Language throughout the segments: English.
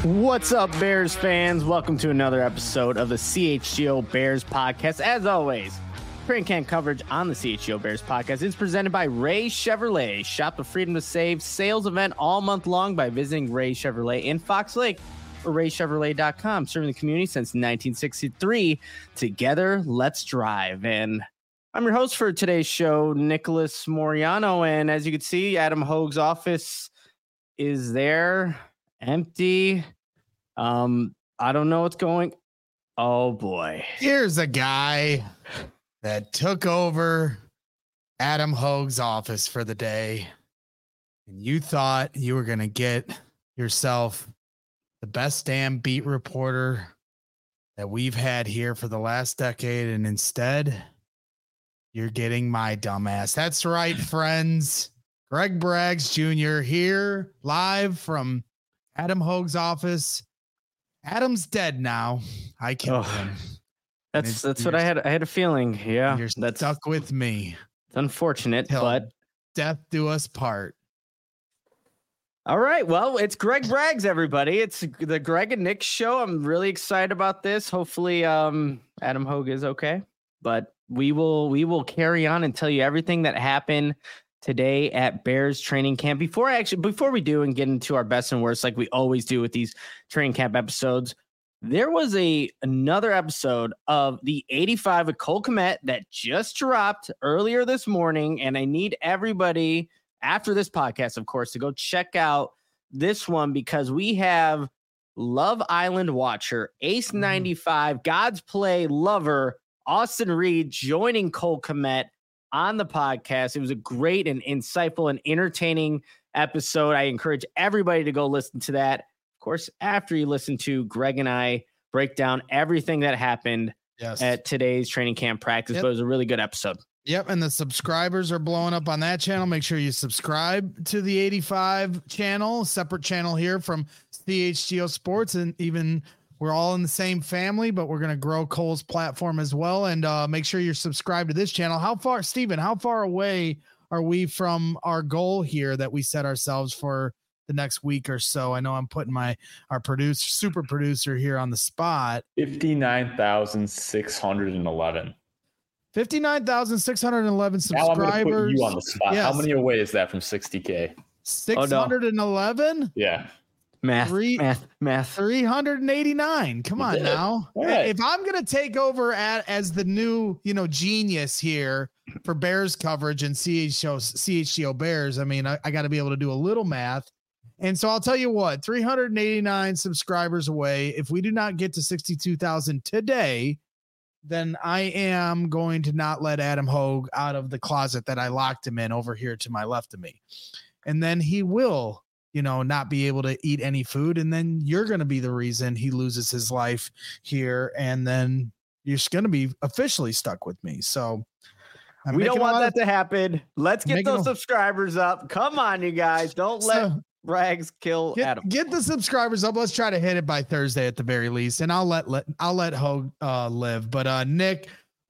What's up, Bears fans? Welcome to another episode of the CHGO Bears podcast. As always, training camp coverage on the CHGO Bears podcast is presented by Ray Chevrolet. Shop the Freedom to Save sales event all month long by visiting Ray Chevrolet in Fox Lake or raychevrolet.com. Serving the community since 1963. Together, let's drive. And I'm your host for today's show, Nicholas Moriano. And as you can see, Adam Hogue's office is there, empty. I don't know what's going. Oh boy. Here's a guy that took over Adam Hogue's office for the day. And you thought you were going to get yourself the best damn beat reporter that we've had here for the last decade. And instead, you're getting my dumbass. That's right, friends. Greg Braggs Jr. here live from Adam Hogue's office. Adam's dead now. I killed him. That's what I had. I had a feeling. Yeah, that's stuck with me. It's unfortunate, but death do us part. All right. Well, it's Greg Braggs, everybody. It's the Greg and Nick show. I'm really excited about this. Hopefully, Adam Hogue is okay. But we will carry on and tell you everything that happened today at Bears training camp. Before we do and get into our best and worst, like we always do with these training camp episodes, there was another episode of the 85 with Cole Kmet that just dropped earlier this morning. And I need everybody after this podcast, of course, to go check out this one because we have Love Island watcher, Ace 95, God's Play lover, Austin Reed joining Cole Kmet on the podcast. It was a great and insightful and entertaining episode. I encourage everybody to go listen to that. Of course, after you listen to Greg and I break down everything that happened at today's training camp practice, but it was a really good episode. Yep, and the subscribers are blowing up on that channel. Make sure you subscribe to the 85 channel, separate channel here from CHGO Sports, and even we're all in the same family, but we're going to grow Cole's platform as well. And make sure you're subscribed to this channel. How far away are we from our goal here that we set ourselves for the next week or so? I know I'm putting our super producer here on the spot. 59,611. 59,611 subscribers. Now I'm going to put you on the spot. Yes. How many away is that from 60K? 611? Yeah. Math. 389. Come on now. Right. If I'm going to take over as the new, genius here for Bears coverage and CHGO Bears, I mean, I got to be able to do a little math. And so I'll tell you what, 389 subscribers away. If we do not get to 62,000 today, then I am going to not let Adam Hogue out of the closet that I locked him in over here to my left of me. And then he will not be able to eat any food. And then you're going to be the reason he loses his life here. And then you're going to be officially stuck with me. So we don't want that to happen. Let's get those subscribers up. Come on, you guys. Don't let Braggs kill Adam. Get the subscribers up. Let's try to hit it by Thursday at the very least. And I'll let Hogue live. But Nick,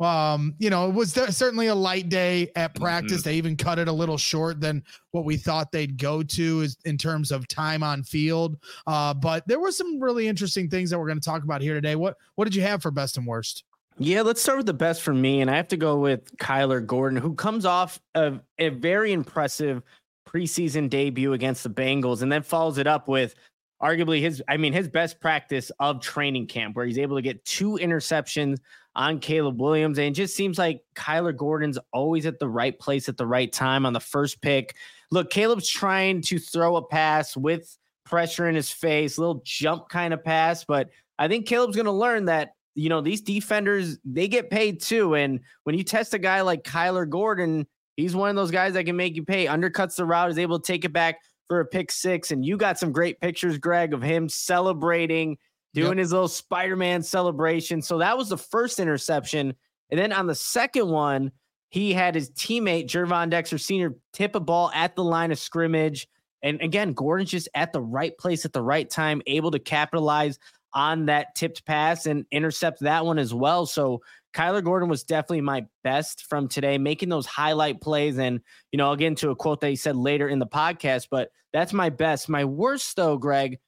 it was certainly a light day at practice. They even cut it a little short than what we thought they'd go to is in terms of time on field. But there were some really interesting things that we're going to talk about here today. What did you have for best and worst? Yeah, let's start with the best for me. And I have to go with Kyler Gordon, who comes off of a very impressive preseason debut against the Bengals and then follows it up with arguably his best practice of training camp, where he's able to get 2 interceptions on Caleb Williams. And it just seems like Kyler Gordon's always at the right place at the right time on the first pick. Look, Caleb's trying to throw a pass with pressure in his face, little jump kind of pass. But I think Caleb's going to learn that, these defenders, they get paid too. And when you test a guy like Kyler Gordon, he's one of those guys that can make you pay, undercuts the route, is able to take it back for a pick 6. And you got some great pictures, Greg, of him celebrating, doing his little Spider-Man celebration. So that was the first interception. And then on the second one, he had his teammate, Gervon Dexter Sr., tip a ball at the line of scrimmage. And again, Gordon's just at the right place at the right time, able to capitalize on that tipped pass and intercept that one as well. So Kyler Gordon was definitely my best from today, making those highlight plays. And, I'll get into a quote that he said later in the podcast, but that's my best. My worst, though, Greg,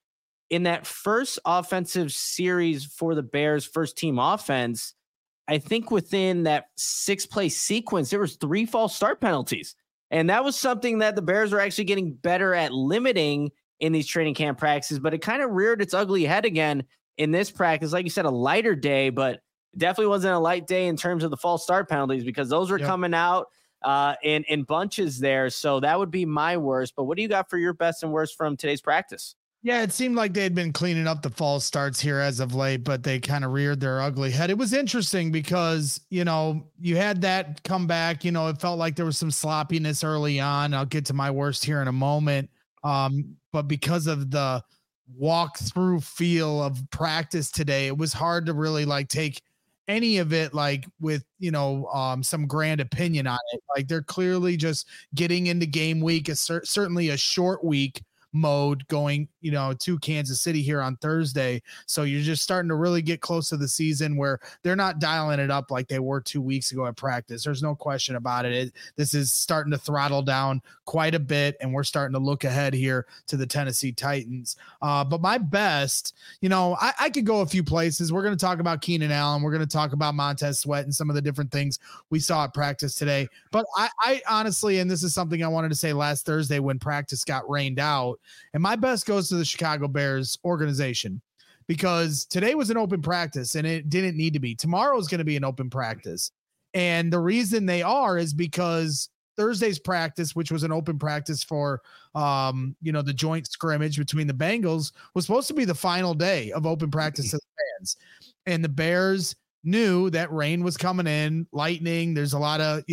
in that first offensive series for the Bears, first team offense, I think within that 6-play sequence, there was 3 false start penalties. And that was something that the Bears are actually getting better at limiting in these training camp practices, but it kind of reared its ugly head again in this practice. Like you said, a lighter day, but definitely wasn't a light day in terms of the false start penalties, because those were coming out in bunches there. So that would be my worst. But what do you got for your best and worst from today's practice? Yeah, it seemed like they had been cleaning up the false starts here as of late, but they kind of reared their ugly head. It was interesting because, you had that come back, it felt like there was some sloppiness early on. I'll get to my worst here in a moment. But because of the walk-through feel of practice today, it was hard to really take any of it with some grand opinion on it. Like, they're clearly just getting into game week, certainly a short week mode going to Kansas City here on Thursday. So you're just starting to really get close to the season where they're not dialing it up like they were 2 weeks ago at practice. There's no question about it. This is starting to throttle down quite a bit, and we're starting to look ahead here to the Tennessee Titans. But my best, I could go a few places. We're going to talk about Keenan Allen. We're going to talk about Montez Sweat and some of the different things we saw at practice today. But I honestly, and this is something I wanted to say last Thursday when practice got rained out, and my best goes to the Chicago Bears organization, because today was an open practice and it didn't need to be. Tomorrow is going to be an open practice. And the reason they are is because Thursday's practice, which was an open practice for, the joint scrimmage between the Bengals, was supposed to be the final day of open practice to the fans. And the Bears knew that rain was coming in, lightning. There's a lot of,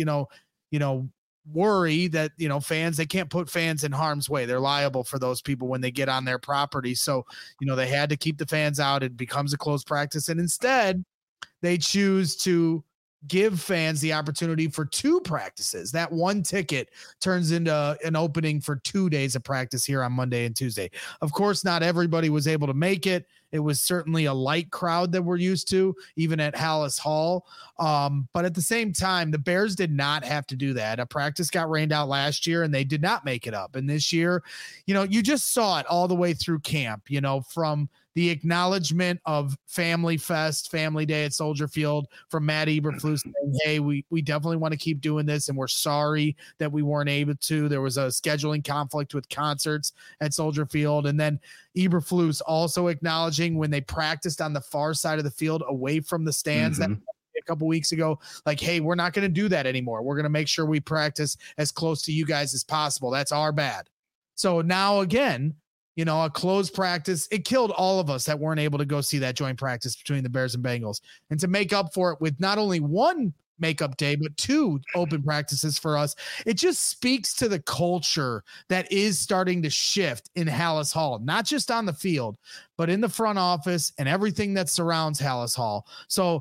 worry that fans, they can't put fans in harm's way. They're liable for those people when they get on their property. So they had to keep the fans out. It becomes a closed practice, and instead they choose to give fans the opportunity for 2 practices. That one ticket turns into an opening for 2 days of practice here on Monday and Tuesday. Of course, not everybody was able to make it. It was certainly a light crowd that we're used to, even at Halas Hall. But at the same time, the Bears did not have to do that. A practice got rained out last year and they did not make it up. And this year, you just saw it all the way through camp, from the acknowledgement of Family Fest, Family Day at Soldier Field from Matt Eberflus saying, hey, we definitely want to keep doing this, and we're sorry that we weren't able to. There was a scheduling conflict with concerts at Soldier Field. And then Eberflus also acknowledging when they practiced on the far side of the field away from the stands that a couple weeks ago, like, hey, we're not going to do that anymore. We're going to make sure we practice as close to you guys as possible. That's our bad. So now again, a closed practice, it killed all of us that weren't able to go see that joint practice between the Bears and Bengals. And to make up for it with not only one makeup day, but 2 open practices for us, it just speaks to the culture that is starting to shift in Halas Hall, not just on the field, but in the front office and everything that surrounds Halas Hall. So,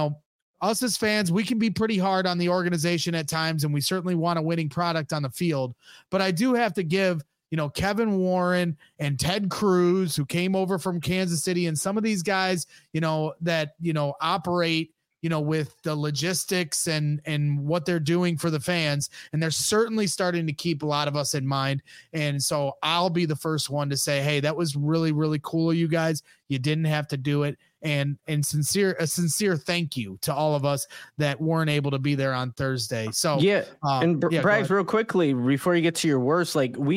us as fans, we can be pretty hard on the organization at times, and we certainly want a winning product on the field. But I do have to give Kevin Warren and Ted Cruz, who came over from Kansas City, and some of these guys, that, operate, with the logistics and what they're doing for the fans. And they're certainly starting to keep a lot of us in mind. And so I'll be the first one to say, hey, that was really, really cool of you guys. You didn't have to do it. And a sincere thank you to all of us that weren't able to be there on Thursday. So Braggs, real quickly before you get to your worst,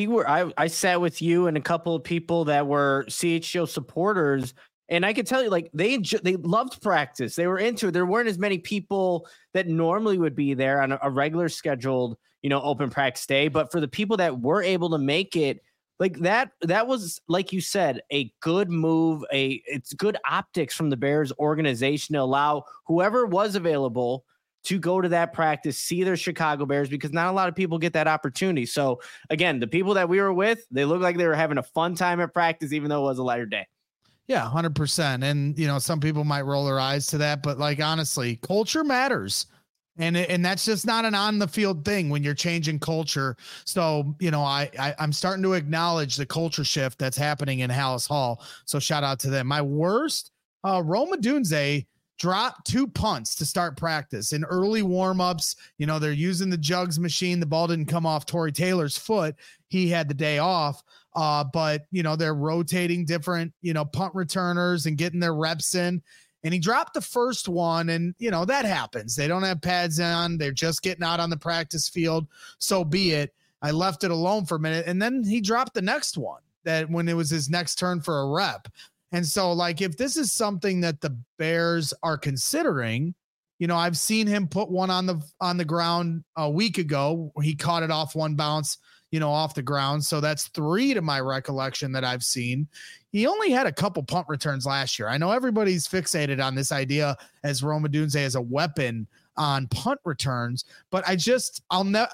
I sat with you and a couple of people that were CHGO supporters, and I could tell you, they loved practice. They were into it. There weren't as many people that normally would be there on a regular scheduled, open practice day. But for the people that were able to make it, that was, like you said, a good move. It's good optics from the Bears organization to allow whoever was available to go to that practice, see their Chicago Bears, because not a lot of people get that opportunity. So again, the people that we were with, they looked like they were having a fun time at practice, even though it was a lighter day. Yeah, 100%. And, some people might roll their eyes to that, but honestly, culture matters. And that's just not an on the field thing when you're changing culture. So, I'm starting to acknowledge the culture shift that's happening in Halas Hall. So shout out to them. My worst, Rome Odunze dropped 2 punts to start practice in early warmups. You know, they're using the jugs machine. The ball didn't come off Tory Taylor's foot. He had the day off. But you know, they're rotating different, you know, punt returners and getting their reps in. And he dropped the first one, and you know, that happens. They don't have pads on. They're just getting out on the practice field. So be it. I left it alone for a minute, and then he dropped the next one that when it was his next turn for a rep. And so, like, if this is something that the Bears are considering, you know, I've seen him put one on the ground a week ago. He caught it off one bounce, you know, off the ground. So that's 3 to my recollection that I've seen. He only had a couple punt returns last year. I know everybody's fixated on this idea as Rome Odunze as a weapon on punt returns, but I just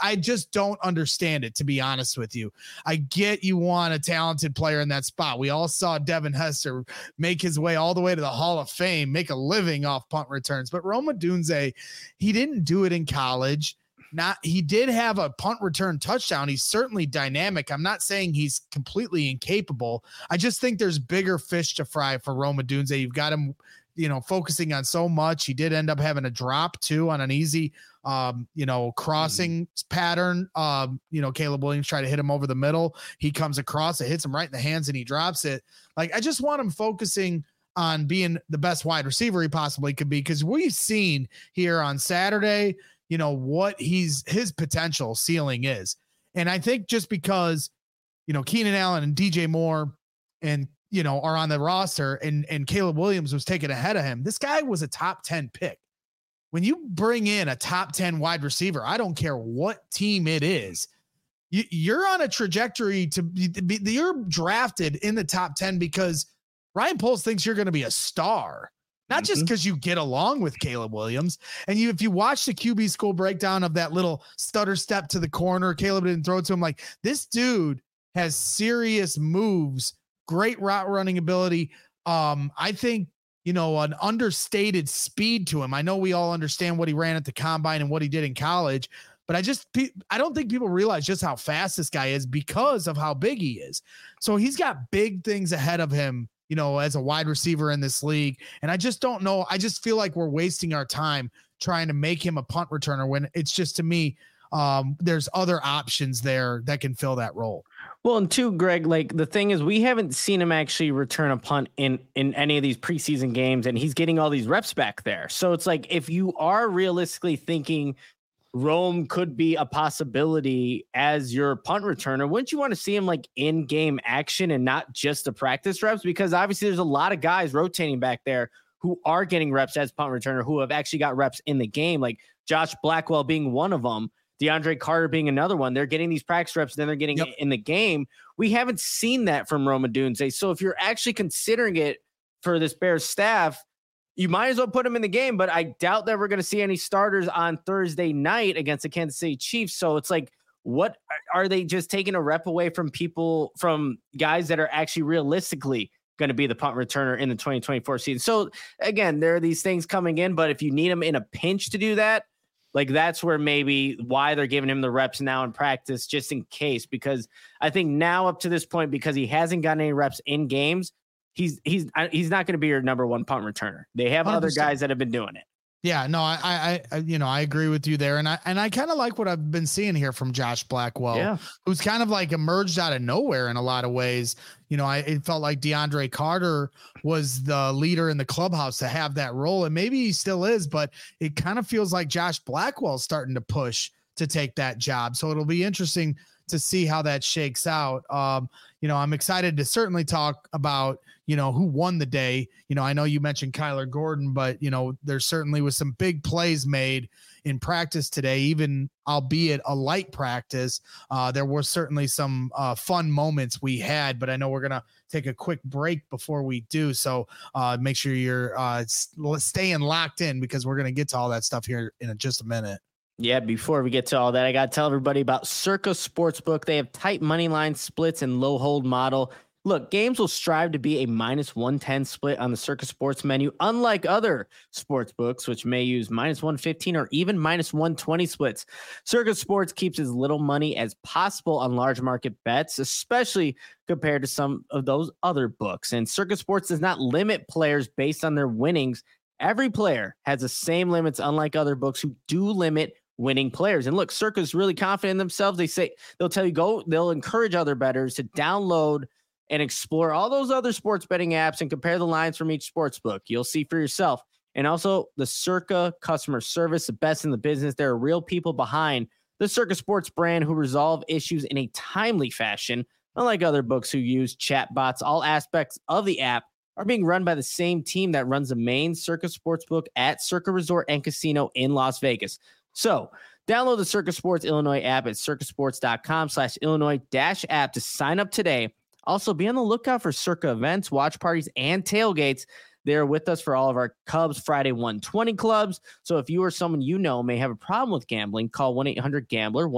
don't understand it, to be honest with you. I get you want a talented player in that spot. We all saw Devin Hester make his way all the way to the Hall of Fame, make a living off punt returns, but Rome Odunze, he didn't do it in college. He did have a punt return touchdown. He's certainly dynamic. I'm not saying he's completely incapable. I just think there's bigger fish to fry for Rome Odunze. You've got him, you know, focusing on so much. He did end up having a drop too on an easy, you know, crossing pattern. You know, Caleb Williams tried to hit him over the middle. He comes across, it hits him right in the hands, and he drops it. Like, I just want him focusing on being the best wide receiver he possibly could be, because we've seen here on Saturday, you know, what his potential ceiling is. And I think just because, you know, Keenan Allen and DJ Moore and, you know, are on the roster and Caleb Williams was taken ahead of him, this guy was a top 10 pick. When you bring in a top 10 wide receiver, I don't care what team it is, you're on a trajectory to be, you're drafted in the top 10 because Ryan Poles thinks you're going to be a star. Not just because you get along with Caleb Williams. And if you watch the QB school breakdown of that little stutter step to the corner, Caleb didn't throw it to him. Like, this dude has serious moves, great route running ability. I think, you know, an understated speed to him. I know we all understand what he ran at the combine and what he did in college, but I don't think people realize just how fast this guy is because of how big he is. So he's got big things ahead of him, you know, as a wide receiver in this league. And I just don't know. I just feel like we're wasting our time trying to make him a punt returner when it's just, to me, there's other options there that can fill that role. Well, and two, Greg, like, the thing is, we haven't seen him actually return a punt in any of these preseason games, and he's getting all these reps back there. So it's like, if you are realistically thinking Rome could be a possibility as your punt returner, wouldn't you want to see him like in game action and not just the practice reps? Because obviously there's a lot of guys rotating back there who are getting reps as punt returner, who have actually got reps in the game, like Josh Blackwell being one of them, DeAndre Carter being another one. They're getting these practice reps, then they're getting it in the game. We haven't seen that from Rome Odunze. So if you're actually considering it for this Bears staff, you might as well put him in the game, but I doubt that we're going to see any starters on Thursday night against the Kansas City Chiefs. So it's like, what are they just taking a rep away from people, from guys that are actually realistically going to be the punt returner in the 2024 season? So again, there are these things coming in, but if you need him in a pinch to do that, like, that's where maybe why they're giving him the reps now in practice, just in case, because I think now up to this point, because he hasn't gotten any reps in games, he's not going to be your number one punt returner. They have 100%. Other guys that have been doing it. Yeah, no, I you know, I agree with you there. And I kind of like what I've been seeing here from Josh Blackwell, who's kind of like emerged out of nowhere in a lot of ways. You know, it felt like DeAndre Carter was the leader in the clubhouse to have that role. And maybe he still is, but it kind of feels like Josh Blackwell's starting to push to take that job. So it'll be interesting to see how that shakes out. You know, I'm excited to certainly talk about, you know, who won the day. You know, I know you mentioned Kyler Gordon, but, you know, there certainly was some big plays made in practice today, even albeit a light practice. There were certainly some fun moments we had, but I know we're going to take a quick break before we do. So make sure you're staying locked in, because we're going to get to all that stuff here in just a minute. Yeah, before we get to all that, I got to tell everybody about Circa Sportsbook. They have tight money line splits and low hold model. Look, games will strive to be a -110 split on the Circa Sports menu, unlike other sports books, which may use -115 or even -120 splits. Circa Sports keeps as little money as possible on large market bets, especially compared to some of those other books. And Circa Sports does not limit players based on their winnings Every player has the same limits, unlike other books who do limit winning players. And look, Circa's really confident in themselves. They'll tell you they'll encourage other bettors to download and explore all those other sports betting apps and compare the lines from each sports book. You'll see for yourself. And also the Circa customer service, the best in the business. There are real people behind the Circa Sports brand who resolve issues in a timely fashion. Unlike other books who use chatbots, all aspects of the app are being run by the same team that runs the main Circa Sportsbook at Circa Resort and Casino in Las Vegas. So download the Circa Sports Illinois app at circasports.com/Illinois-app to sign up today. Also, be on the lookout for Circa events, watch parties, and tailgates. They're with us for all of our Cubs Friday 120 clubs. So if you or someone you know may have a problem with gambling, call 1-800-GAMBLER,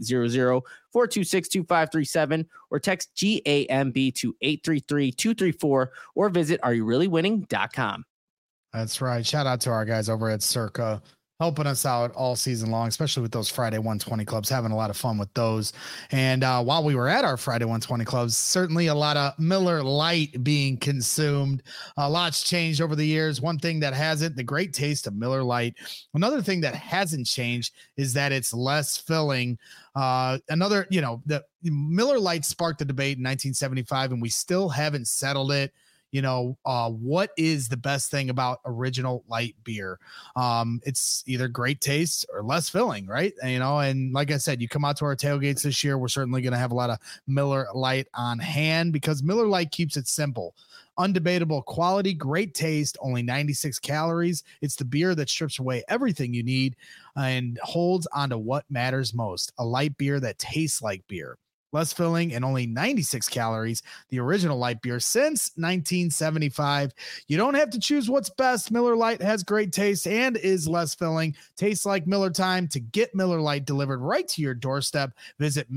1-800-426-2537, or text GAMB to 833-234, or visit areyoureallywinning.com. That's right. Shout out to our guys over at Circa, helping us out all season long, especially with those Friday 120 clubs, having a lot of fun with those. And while we were at our Friday 120 clubs, certainly a lot of Miller Lite being consumed. A lot's changed over the years. One thing that hasn't, the great taste of Miller Lite. Another thing that hasn't changed is that it's less filling. The Miller Lite sparked the debate in 1975, and we still haven't settled it. What is the best thing about original light beer? It's either great taste or less filling, right? And like I said, you come out to our tailgates this year, we're certainly going to have a lot of Miller Lite on hand because Miller Lite keeps it simple. Undebatable quality, great taste, only 96 calories. It's the beer that strips away everything you need and holds onto what matters most. A light beer that tastes like beer. Less filling and only 96 calories. The original light beer since 1975. You don't have to choose what's best. Miller Lite has great taste and is less filling. Tastes like Miller time. To get Miller Lite delivered right to your doorstep, visit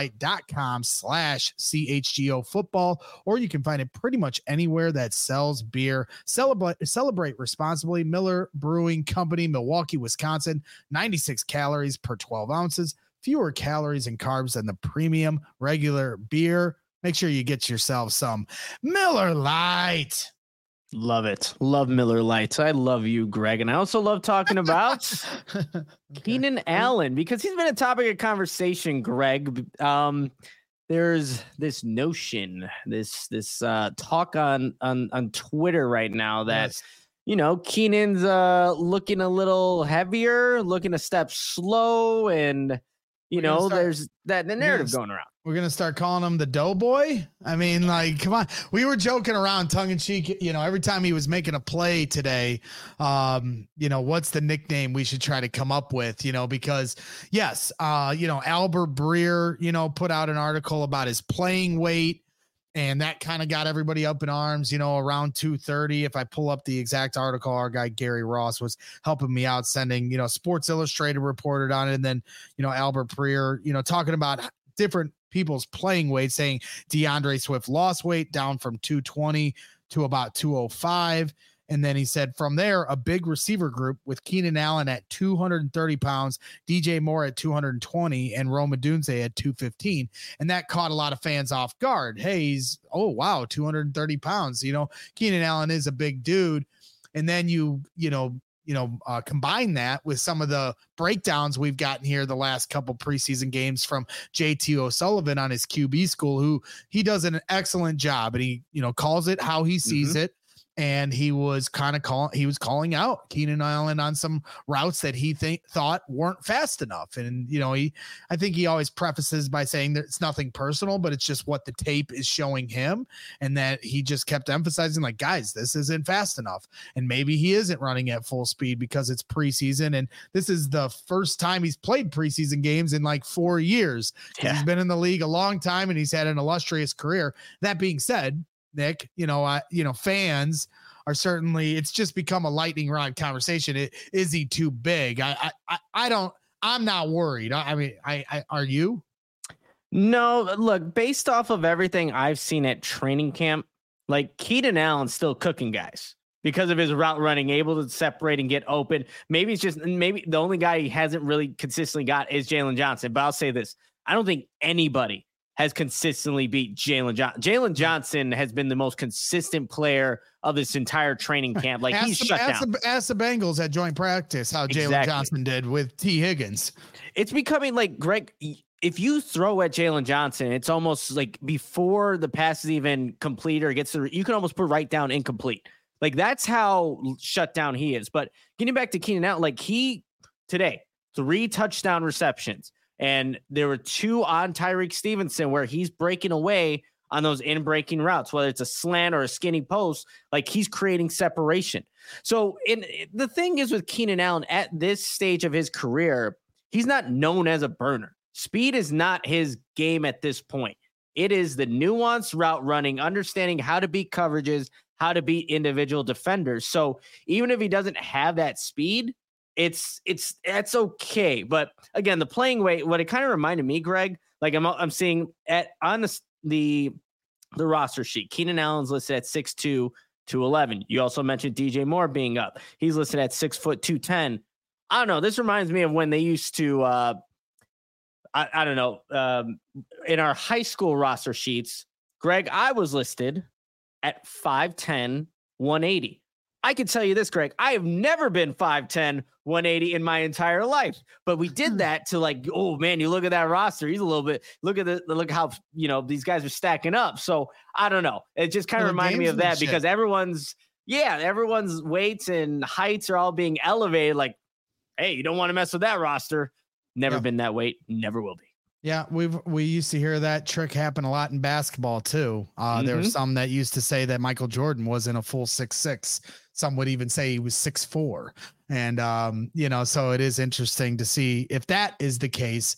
MillerLite.com/CHGO football, or you can find it pretty much anywhere that sells beer. Celebrate responsibly. Miller Brewing Company, Milwaukee, Wisconsin. 96 calories per 12 ounces. Fewer calories and carbs than the premium regular beer. Make sure you get yourself some Miller Lite. Love it. Love Miller Lite. I love you, Greg. And I also love talking about Keenan Allen because he's been a topic of conversation, Greg. There's this notion, this talk on Twitter right now that, Keenan's looking a little heavier, looking a step slow, and there's the narrative going around. We're going to start calling him the Doughboy. I mean, come on. We were joking around tongue in cheek, every time he was making a play today, what's the nickname we should try to come up with, because yes, Albert Breer, put out an article about his playing weight. And that kind of got everybody up in arms, around 2:30. If I pull up the exact article, our guy Gary Ross was helping me out, sending, Sports Illustrated reported on it. And then, Albert Breer, talking about different people's playing weight, saying DeAndre Swift lost weight down from 220 to about 205. And then he said from there, a big receiver group with Keenan Allen at 230 pounds, DJ Moore at 220, and Rome Odunze at 215. And that caught a lot of fans off guard. Hey, he's, 230 pounds. Keenan Allen is a big dude. And then combine that with some of the breakdowns we've gotten here the last couple preseason games from JT O'Sullivan on his QB school, who he does an excellent job, and he, calls it how he sees it. And he was calling out Keenan Allen on some routes that he thought weren't fast enough. And, I think he always prefaces by saying that it's nothing personal, but it's just what the tape is showing him. And that he just kept emphasizing, guys, this isn't fast enough. And maybe he isn't running at full speed because it's preseason. And this is the first time he's played preseason games in 4 years. Yeah. He's been in the league a long time and he's had an illustrious career. That being said, Nick, fans are certainly, it's just become a lightning rod conversation. Is he too big? I'm not worried. Are you? No, look, based off of everything I've seen at training camp, Keenan Allen's still cooking guys because of his route running, able to separate and get open. Maybe the only guy he hasn't really consistently got is Jalen Johnson. But I'll say this. I don't think anybody has consistently beat Jalen Johnson. Jalen Johnson has been the most consistent player of this entire training camp. Like he's shut down. Ask the Bengals at joint practice how Jalen Johnson did with T. Higgins. It's becoming like, Greg, if you throw at Jalen Johnson, it's almost like before the pass is even complete or gets you can almost put right down incomplete. Like that's how shut down he is. But getting back to Keenan Allen, like today, 3 touchdown receptions. And there were 2 on Tyreek Stevenson where he's breaking away on those in-breaking routes, whether it's a slant or a skinny post, like he's creating separation. So the thing is with Keenan Allen at this stage of his career, he's not known as a burner. Speed is not his game at this point. It is the nuanced route running, understanding how to beat coverages, how to beat individual defenders. So even if he doesn't have that speed, that's okay. But again, the playing weight, what it kind of reminded me, Greg, like I'm seeing on the roster sheet, Keenan Allen's listed at 6'2", 211. You also mentioned DJ Moore being up. He's listed at 6 foot 210. I don't know. This reminds me of when they used to, I don't know, in our high school roster sheets, Greg, I was listed at 5'10", 180. I can tell you this, Greg, I have never been 5'10", 180 in my entire life, but we did that to like, oh man, you look at that roster. He's a little bit, look how, these guys are stacking up. So I don't know. It just kind of reminded me of that because everyone's weights and heights are all being elevated. Like, hey, you don't want to mess with that roster. Never been that weight. Never will be. Yeah, we used to hear that trick happen a lot in basketball too. There were some that used to say that Michael Jordan wasn't a full 6'6". Some would even say he was 6'4". And so it is interesting to see if that is the case.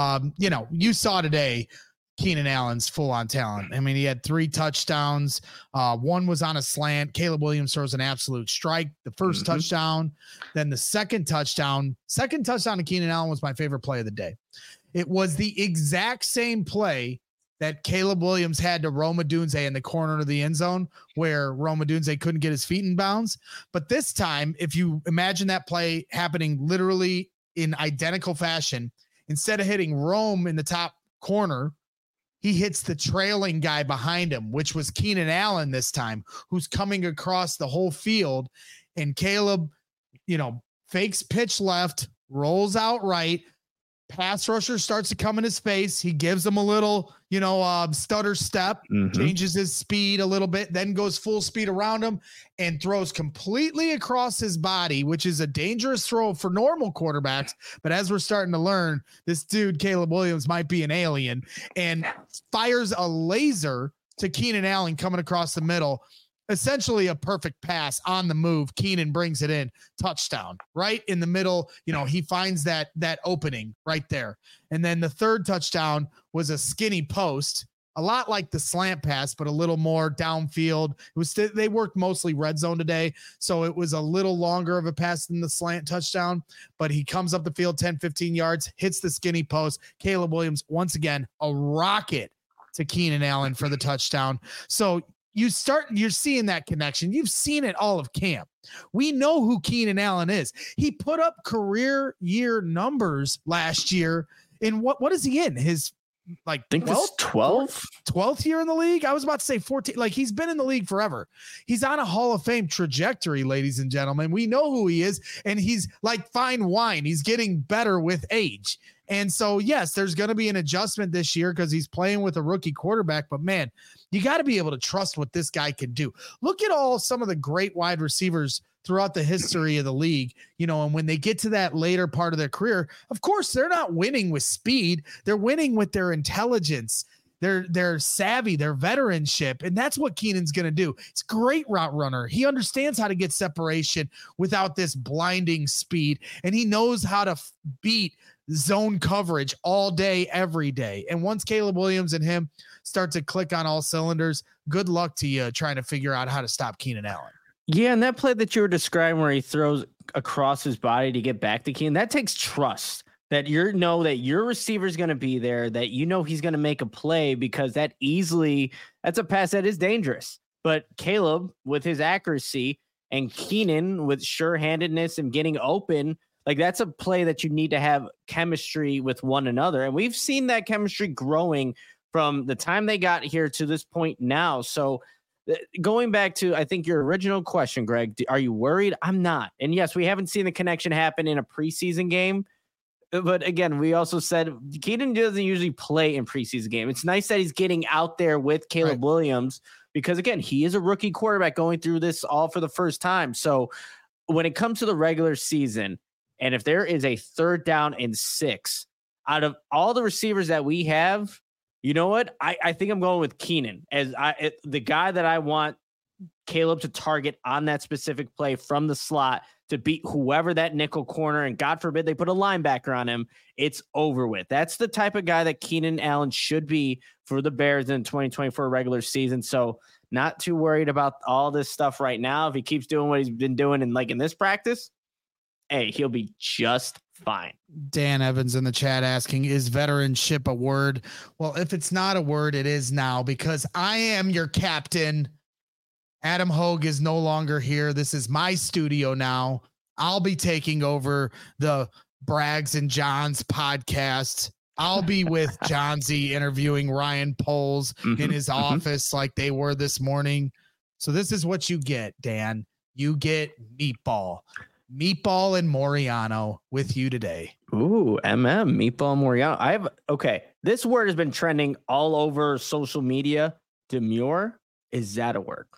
You saw today Keenan Allen's full on talent. I mean, he had 3 touchdowns. One was on a slant. Caleb Williams throws an absolute strike. The first touchdown, then the second touchdown to Keenan Allen was my favorite play of the day. It was the exact same play that Caleb Williams had to Rome Odunze in the corner of the end zone where Rome Odunze couldn't get his feet in bounds. But this time, if you imagine that play happening literally in identical fashion, instead of hitting Rome in the top corner, he hits the trailing guy behind him, which was Keenan Allen this time, who's coming across the whole field. And Caleb, fakes pitch left, rolls out right. Pass rusher starts to come in his face. He gives him a little, stutter step, changes his speed a little bit, then goes full speed around him and throws completely across his body, which is a dangerous throw for normal quarterbacks. But as we're starting to learn, this dude, Caleb Williams, might be an alien, and fires a laser to Keenan Allen coming across the middle. Essentially a perfect pass on the move. Keenan brings it in, touchdown right in the middle. He finds that opening right there. And then the third touchdown was a skinny post, a lot like the slant pass, but a little more downfield. They worked mostly red zone today, so it was a little longer of a pass than the slant touchdown, but he comes up the field 10, 15 yards, hits the skinny post. Caleb Williams, once again, a rocket to Keenan Allen for the touchdown. So you're seeing that connection. You've seen it all of camp. We know who Keenan Allen is. He put up career year numbers last year. In what is he in? His I think 12th year in the league. I was about to say 14. Like he's been in the league forever. He's on a Hall of Fame trajectory, ladies and gentlemen. We know who he is, and he's like fine wine. He's getting better with age. And so, yes, there's going to be an adjustment this year because he's playing with a rookie quarterback. But, man, you got to be able to trust what this guy can do. Look at some of the great wide receivers throughout the history of the league, and when they get to that later part of their career, of course, they're not winning with speed. They're winning with their intelligence, their savvy, their veteranship. And that's what Keenan's going to do. It's a great route runner. He understands how to get separation without this blinding speed. And he knows how to beat zone coverage all day, every day. And once Caleb Williams and him start to click on all cylinders, good luck to you trying to figure out how to stop Keenan Allen. Yeah, and that play that you were describing where he throws across his body to get back to Keenan, that takes trust that that your receiver is going to be there, that he's going to make a play, because that's a pass that is dangerous. But Caleb, with his accuracy, and Keenan with sure-handedness and getting open, like that's a play that you need to have chemistry with one another. And we've seen that chemistry growing from the time they got here to this point now. So going back to, I think, your original question, Greg, are you worried? I'm not. And yes, we haven't seen the connection happen in a preseason game. But again, we also said Keenan doesn't usually play in preseason game. It's nice that he's getting out there with Caleb Williams because, again, he is a rookie quarterback going through this all for the first time. So when it comes to the regular season, and if there is a 3rd down and 6 out of all the receivers that we have, you know what? I think I'm going with Keenan as the guy that I want Caleb to target on that specific play from the slot to beat whoever that nickel corner, and God forbid they put a linebacker on him, it's over with. That's the type of guy that Keenan Allen should be for the Bears in 2024 regular season. So not too worried about all this stuff right now. If he keeps doing what he's been doing in this practice, hey, he'll be just fine. Dan Evans in the chat asking, is veteranship a word? Well, if it's not a word, it is now, because I am your captain. Adam Hogue is no longer here. This is my studio now. I'll be taking over the Braggs and Johns podcast. I'll be with John Z interviewing Ryan Poles in his office like they were this morning. So this is what you get, Dan. You get Meatball and Moriano with you today. Ooh, Meatball and Moriano. This word has been trending all over social media. Demure. Is that a word?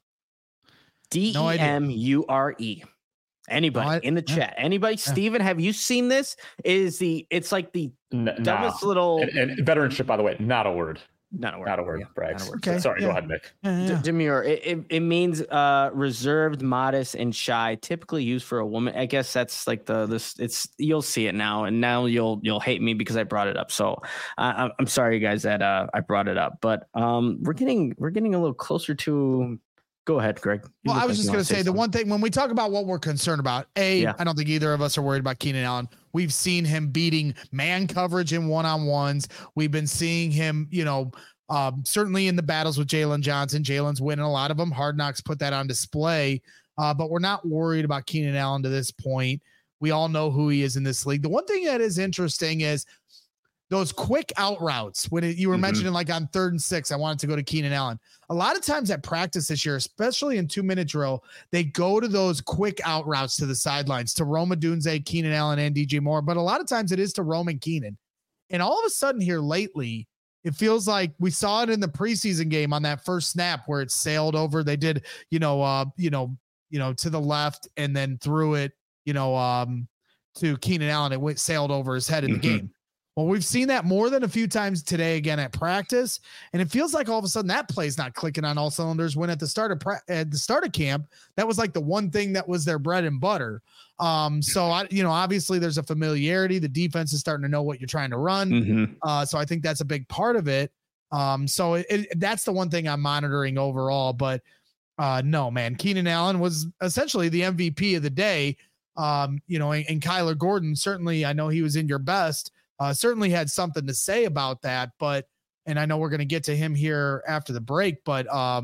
DEMURE. Anybody in the chat? Anybody? Steven, have you seen this? It's like the dumbest little. And veteranship, by the way, not a word. Not a word. Not a word. Yeah, Braggs. Okay. Sorry, go ahead, Nick. Demure. It means reserved, modest, and shy. Typically used for a woman. I guess that's like it's. You'll see it now, and now you'll hate me because I brought it up. So I'm sorry, you guys, that I brought it up. But we're getting a little closer to. Go ahead, Greg. Well, I was just going to say the one thing when we talk about what we're concerned about, I don't think either of us are worried about Keenan Allen. We've seen him beating man coverage in one-on-ones. We've been seeing him, certainly in the battles with Jalen Johnson. Jalen's winning a lot of them. Hard Knocks put that on display, but we're not worried about Keenan Allen to this point. We all know who he is in this league. The one thing that is interesting is those quick out routes. When you were mentioning like on 3rd and 6, I wanted to go to Keenan Allen. A lot of times at practice this year, especially in 2-minute drill, they go to those quick out routes to the sidelines to Rome Odunze, Keenan Allen, and DJ Moore. But a lot of times it is to Rome and Keenan. And all of a sudden here lately, it feels like we saw it in the preseason game on that first snap where it sailed over. They did, to the left and then threw it, to Keenan Allen. It sailed over his head in the game. Well, we've seen that more than a few times today again at practice, and it feels like all of a sudden that play's not clicking on all cylinders. When at the start of camp, that was like the one thing that was their bread and butter. So obviously there's a familiarity. The defense is starting to know what you're trying to run. So I think that's a big part of it. So that's the one thing I'm monitoring overall. But no, man, Keenan Allen was essentially the MVP of the day. And Kyler Gordon, certainly, I know he was in your best. Certainly had something to say about that, and I know we're going to get to him here after the break, but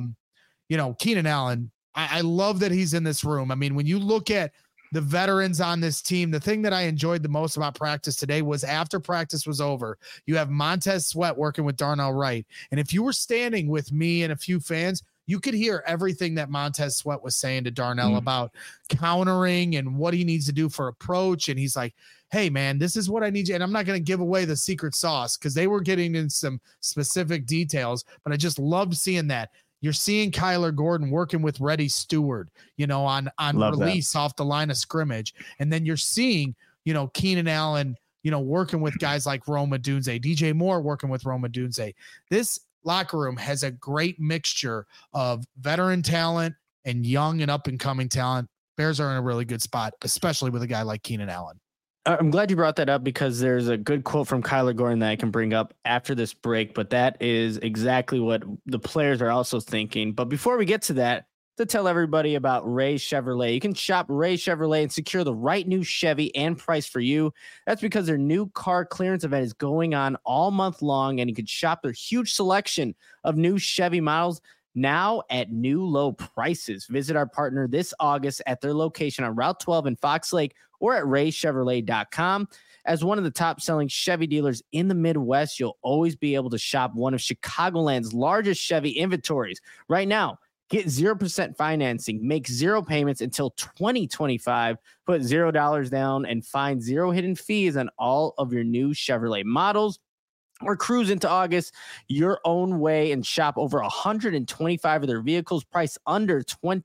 Keenan Allen, I love that he's in this room. I mean, when you look at the veterans on this team, the thing that I enjoyed the most about practice today was after practice was over, you have Montez Sweat working with Darnell Wright. And if you were standing with me and a few fans, you could hear everything that Montez Sweat was saying to Darnell about countering and what he needs to do for approach. And he's like, hey, man, this is what I need you. And I'm not going to give away the secret sauce because they were getting in some specific details, but I just loved seeing that. You're seeing Kyler Gordon working with Reddy Stewart, on release off the line of scrimmage. And then you're seeing, Keenan Allen, working with guys like Rome Odunze, DJ Moore working with Rome Odunze. This locker room has a great mixture of veteran talent and young and up and coming talent. Bears are in a really good spot, especially with a guy like Keenan Allen. I'm glad you brought that up because there's a good quote from Kyler Gordon that I can bring up after this break, but that is exactly what the players are also thinking. But before we get to that, to tell everybody about Ray Chevrolet. You can shop Ray Chevrolet and secure the right new Chevy and price for you. That's because their new car clearance event is going on all month long, and you can shop their huge selection of new Chevy models now at new low prices. Visit our partner this August at their location on Route 12 in Fox Lake or at raychevrolet.com. As one of the top selling Chevy dealers in the Midwest, you'll always be able to shop one of Chicagoland's largest Chevy inventories. Right now, get 0% financing, make 0 payments until 2025, put $0 down, and find 0 hidden fees on all of your new Chevrolet models. Or cruise into August your own way and shop over 125 of their vehicles priced under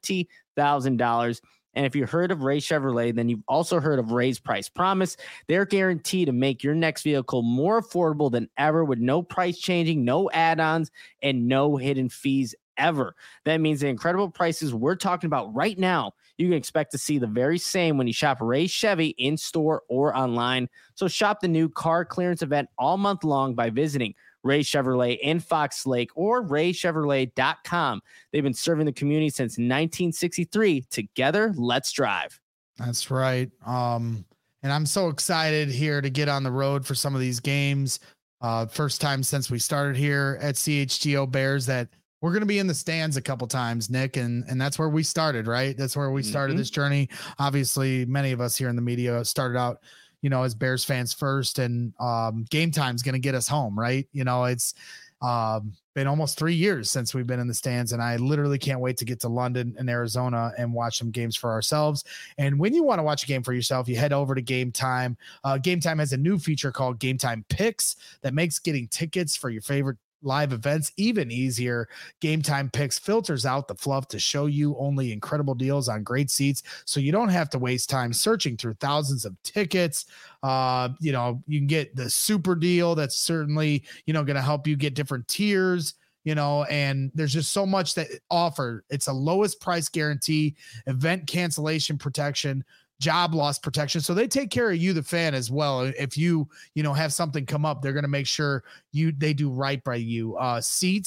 $20,000. And if you heard of Ray Chevrolet, then you've also heard of Ray's Price Promise. They're guaranteed to make your next vehicle more affordable than ever with no price changing, no add-ons, and no hidden fees ever. That means the incredible prices we're talking about right now, you can expect to see the very same when you shop Ray Chevy in store or online. So shop the new car clearance event all month long by visiting Ray Chevrolet in Fox Lake or raychevrolet.com. They've been serving the community since 1963. Together, let's drive. That's right. And I'm so excited here to get on the road for some of these games. First time since we started here at CHGO Bears that we're going to be in the stands a couple times, Nick, and that's where we started, right? That's where we started this journey. Obviously, many of us here in the media started out, as Bears fans first, and Game Time's going to get us home, right? It's been almost 3 years since we've been in the stands, and I literally can't wait to get to London and Arizona and watch some games for ourselves. And when you want to watch a game for yourself, you head over to Game Time. Game Time has a new feature called Game Time Picks that makes getting tickets for your favorite live events even easier. Game Time Picks filters out the fluff to show you only incredible deals on great seats, so you don't have to waste time searching through thousands of tickets. You can get the super deal that's certainly going to help you get different tiers, and there's just so much that offer. It's a lowest price guarantee, event cancellation protection, job loss protection. So they take care of you, the fan, as well. If you have something come up, they're going to make sure they do right by you. Seat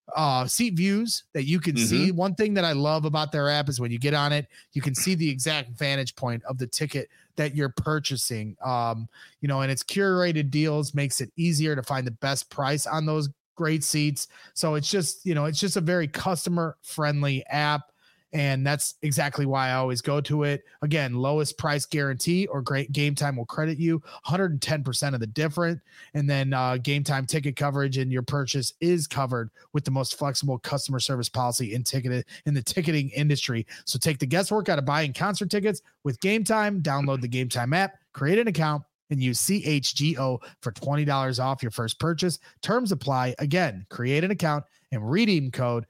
views that you can see. One thing that I love about their app is when you get on it, you can see the exact vantage point of the ticket that you're purchasing. And it's curated deals, makes it easier to find the best price on those great seats. So it's just a very customer friendly app. And that's exactly why I always go to it. Again, lowest price guarantee, or great Game Time will credit you 110% of the difference. And then Game Time ticket coverage and your purchase is covered with the most flexible customer service policy in the ticketing industry. So take the guesswork out of buying concert tickets with Game Time. Download the Game Time app, create an account, and use CHGO for $20 off your first purchase. Terms apply. Again, create an account and redeem code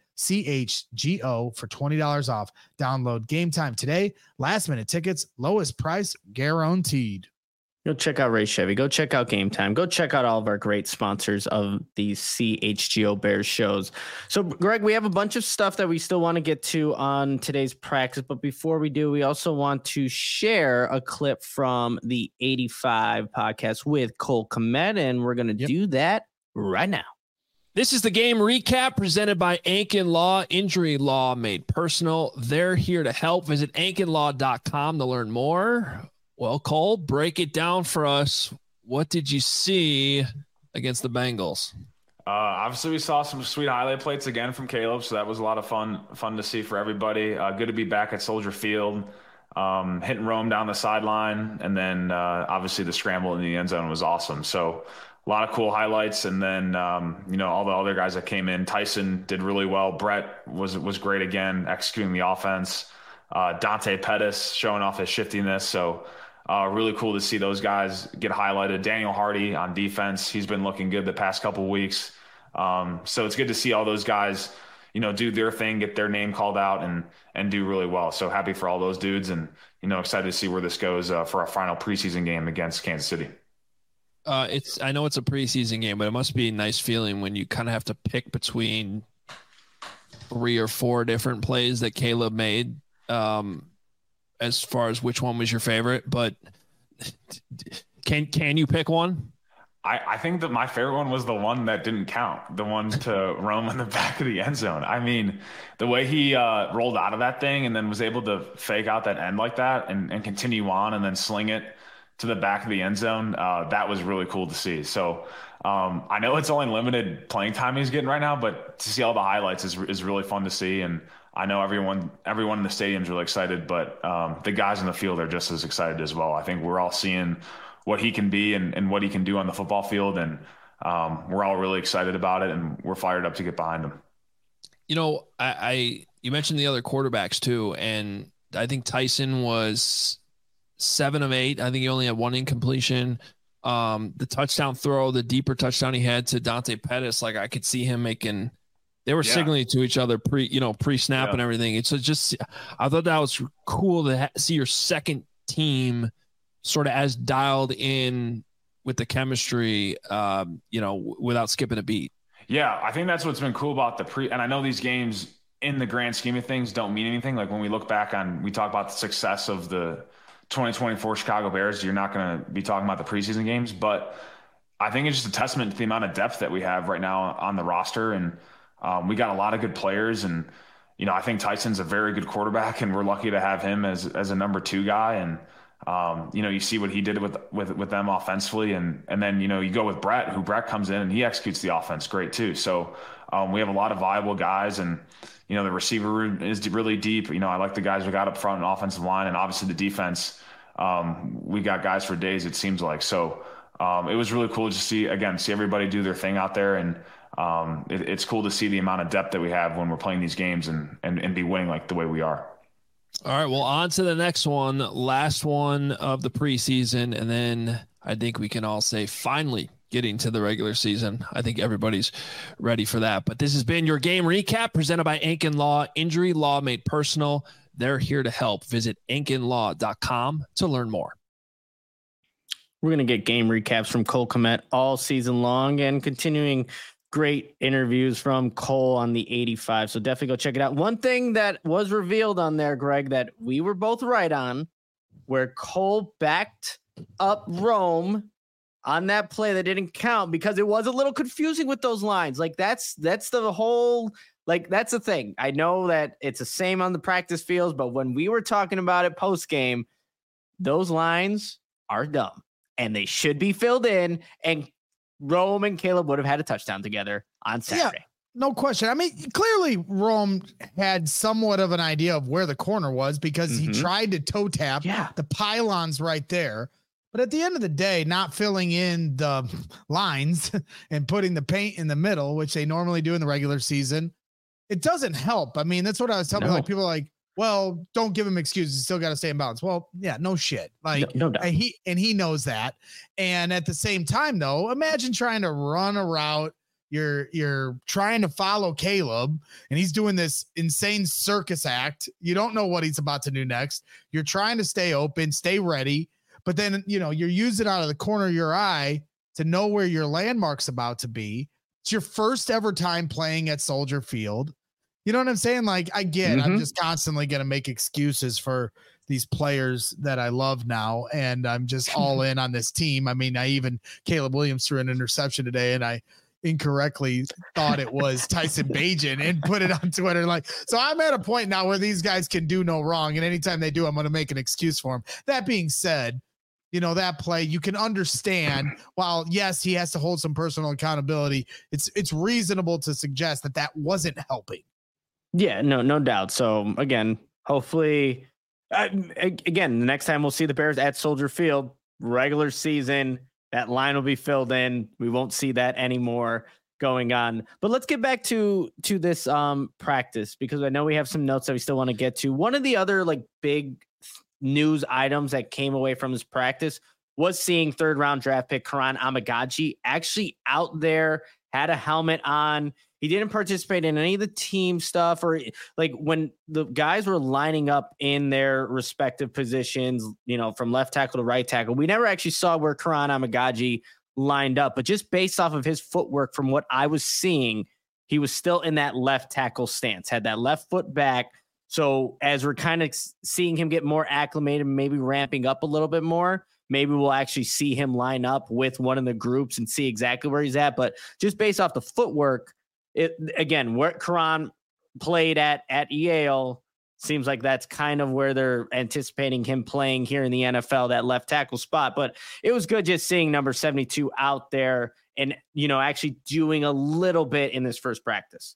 CHGO for $20 off. Download Game Time today. Last minute tickets, lowest price guaranteed. Go check out Ray Chevy. Go check out Game Time. Go check out all of our great sponsors of these CHGO Bears shows. So, Greg, we have a bunch of stuff that we still want to get to on today's practice. But before we do, we also want to share a clip from the 85 podcast with Cole Kmet, and we're going to do that right now. This is the game recap presented by Ankin Law. Injury law made personal. They're here to help. Visit ankinlaw.com to learn more. Well, Cole, break it down for us. What did you see against the Bengals? Obviously, we saw some sweet highlight plates again from Caleb, so that was a lot of fun to see for everybody. Good to be back at Soldier Field, hitting Rome down the sideline, and then obviously the scramble in the end zone was awesome. So a lot of cool highlights, and then all the other guys that came in. Tyson did really well. Brett was great again, executing the offense. Dante Pettis showing off his shiftiness. So really cool to see those guys get highlighted. Daniel Hardy on defense, he's been looking good the past couple of weeks. So it's good to see all those guys, do their thing, get their name called out, and do really well. So happy for all those dudes, and excited to see where this goes for our final preseason game against Kansas City. I know it's a preseason game, but it must be a nice feeling when you kind of have to pick between 3 or 4 different plays that Caleb made, as far as which one was your favorite. But can you pick one? I think that my favorite one was the one that didn't count, the one to Rome in the back of the end zone. I mean, the way he rolled out of that thing and then was able to fake out that end like that and continue on and then sling it to the back of the end zone, that was really cool to see. So I know it's only limited playing time he's getting right now, but to see all the highlights is really fun to see. And I know everyone in the stadium is really excited, but the guys in the field are just as excited as well. I think we're all seeing what he can be and what he can do on the football field. And we're all really excited about it, and we're fired up to get behind him. You know, you mentioned the other quarterbacks too, and I think Tyson was 7 of 8. I think he only had 1 incompletion. The touchdown throw, the deeper touchdown he had to Dante Pettis, like I could see him making. They were signaling to each other pre-snap and everything. It's just, I thought that was cool to see your second team sort of as dialed in with the chemistry, without skipping a beat. Yeah, I think that's what's been cool about and I know these games in the grand scheme of things don't mean anything. Like when we look back we talk about the success of the 2024 Chicago Bears, you're not going to be talking about the preseason games, but I think it's just a testament to the amount of depth that we have right now on the roster. And we got a lot of good players, and, I think Tyson's a very good quarterback, and we're lucky to have him as a number 2 guy. And, you see what he did with them offensively. And then, you go with Brett comes in and he executes the offense great too. So we have a lot of viable guys, and, the receiver room is really deep. I like the guys we got up front and offensive line, and obviously the defense. We got guys for days, it seems like. So it was really cool to see everybody do their thing out there. And it's cool to see the amount of depth that we have when we're playing these games and be winning like the way we are. All right, well, on to the next one, last one of the preseason, and then I think we can all say finally getting to the regular season. I think everybody's ready for that. But this has been your game recap presented by Ankin Law. Injury law made personal. They're here to help. Visit ankinlaw.com to learn more. We're going to get game recaps from Cole Kmet all season long, and continuing great interviews from Cole on the 85. So definitely go check it out. One thing that was revealed on there, Greg, that we were both right on, where Cole backed up Rome on that play that didn't count because it was a little confusing with those lines. Like that's the whole, like, that's the thing. I know that it's the same on the practice fields, but when we were talking about it post game, those lines are dumb and they should be filled in, and Rome and Caleb would have had a touchdown together on Saturday. Yeah, no question. I mean, clearly Rome had somewhat of an idea of where the corner was because he tried to toe tap the pylons right there. But at the end of the day, not filling in the lines and putting the paint in the middle, which they normally do in the regular season, it doesn't help. I mean, that's what I was telling like people are like, well, don't give him excuses. You still got to stay in balance. Well, yeah, no shit. Like no doubt. He knows that. And at the same time, though, imagine trying to run a route. You're trying to follow Caleb, and he's doing this insane circus act. You don't know what he's about to do next. You're trying to stay open, stay ready. But then, you're using out of the corner of your eye to know where your landmark's about to be. It's your first ever time playing at Soldier Field. You know what I'm saying? Like, I get, I'm just constantly going to make excuses for these players that I love now. And I'm just all in on this team. I mean, Caleb Williams threw an interception today, and I incorrectly thought it was Tyson Bagent and put it on Twitter. Like, so I'm at a point now where these guys can do no wrong. And anytime they do, I'm going to make an excuse for them. That being said, that play, you can understand, while yes, he has to hold some personal accountability, it's reasonable to suggest that wasn't helping. Yeah, no doubt. So again, hopefully, the next time we'll see the Bears at Soldier Field, regular season, that line will be filled in. We won't see that anymore going on. But let's get back to this practice, because I know we have some notes that we still want to get to. One of the other big news items that came away from this practice was seeing 3rd round draft pick Karan Amagaji actually out there, had a helmet on. He didn't participate in any of the team stuff, or when the guys were lining up in their respective positions, from left tackle to right tackle. We never actually saw where Karan Amagaji lined up, but just based off of his footwork, from what I was seeing, he was still in that left tackle stance, had that left foot back. So as we're kind of seeing him get more acclimated, maybe ramping up a little bit more, maybe we'll actually see him line up with one of the groups and see exactly where he's at. But just based off the footwork, where Karan played at Yale, seems like that's kind of where they're anticipating him playing here in the NFL, that left tackle spot. But it was good just seeing number 72 out there and, actually doing a little bit in this first practice.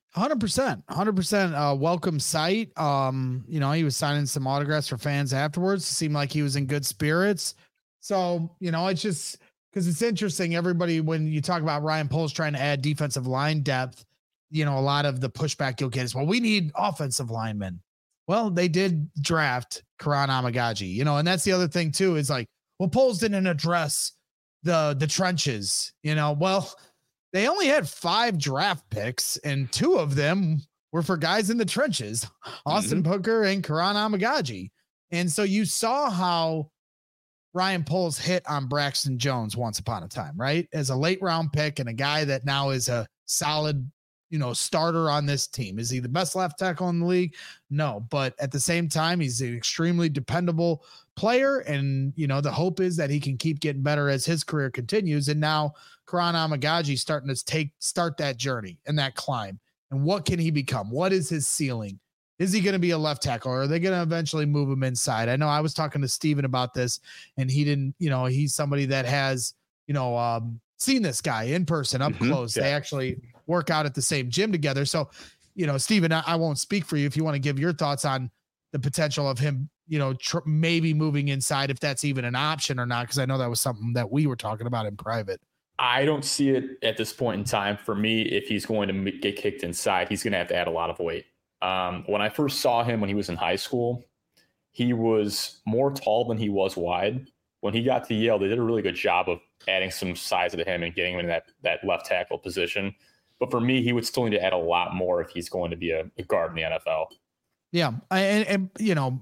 100%. Welcome sight. He was signing some autographs for fans afterwards. It seemed like he was in good spirits. So, it's just because it's interesting. Everybody, when you talk about Ryan Poles trying to add defensive line depth, a lot of the pushback you'll get is, well, we need offensive linemen. Well, they did draft Karan Amagaji, and that's the other thing too, is like, well, Poles didn't address the trenches, well, they only had 5 draft picks and 2 of them were for guys in the trenches, Austin Booker and Karan Amagaji. And so you saw how Ryan Poles hit on Braxton Jones once upon a time, right? As a late round pick and a guy that now is a solid, starter on this team. Is he the best left tackle in the league? No, but at the same time, he's an extremely dependable player. And, the hope is that he can keep getting better as his career continues. And now Karan Amagaji starting to start that journey and that climb. And what can he become? What is his ceiling? Is he going to be a left tackle, or are they going to eventually move him inside? I know I was talking to Steven about this, and he didn't, he's somebody that has, seen this guy in person up close. Yeah. They actually work out at the same gym together. So, Steven, I won't speak for you if you want to give your thoughts on the potential of him, maybe moving inside, if that's even an option or not, because I know that was something that we were talking about in private. I don't see it at this point in time. For me, if he's going to get kicked inside, he's going to have to add a lot of weight. When I first saw him when he was in high school, he was more tall than he was wide. When he got to Yale, they did a really good job of adding some size to him and getting him in that left tackle position. But for me, he would still need to add a lot more if he's going to be a guard in the NFL. Yeah. And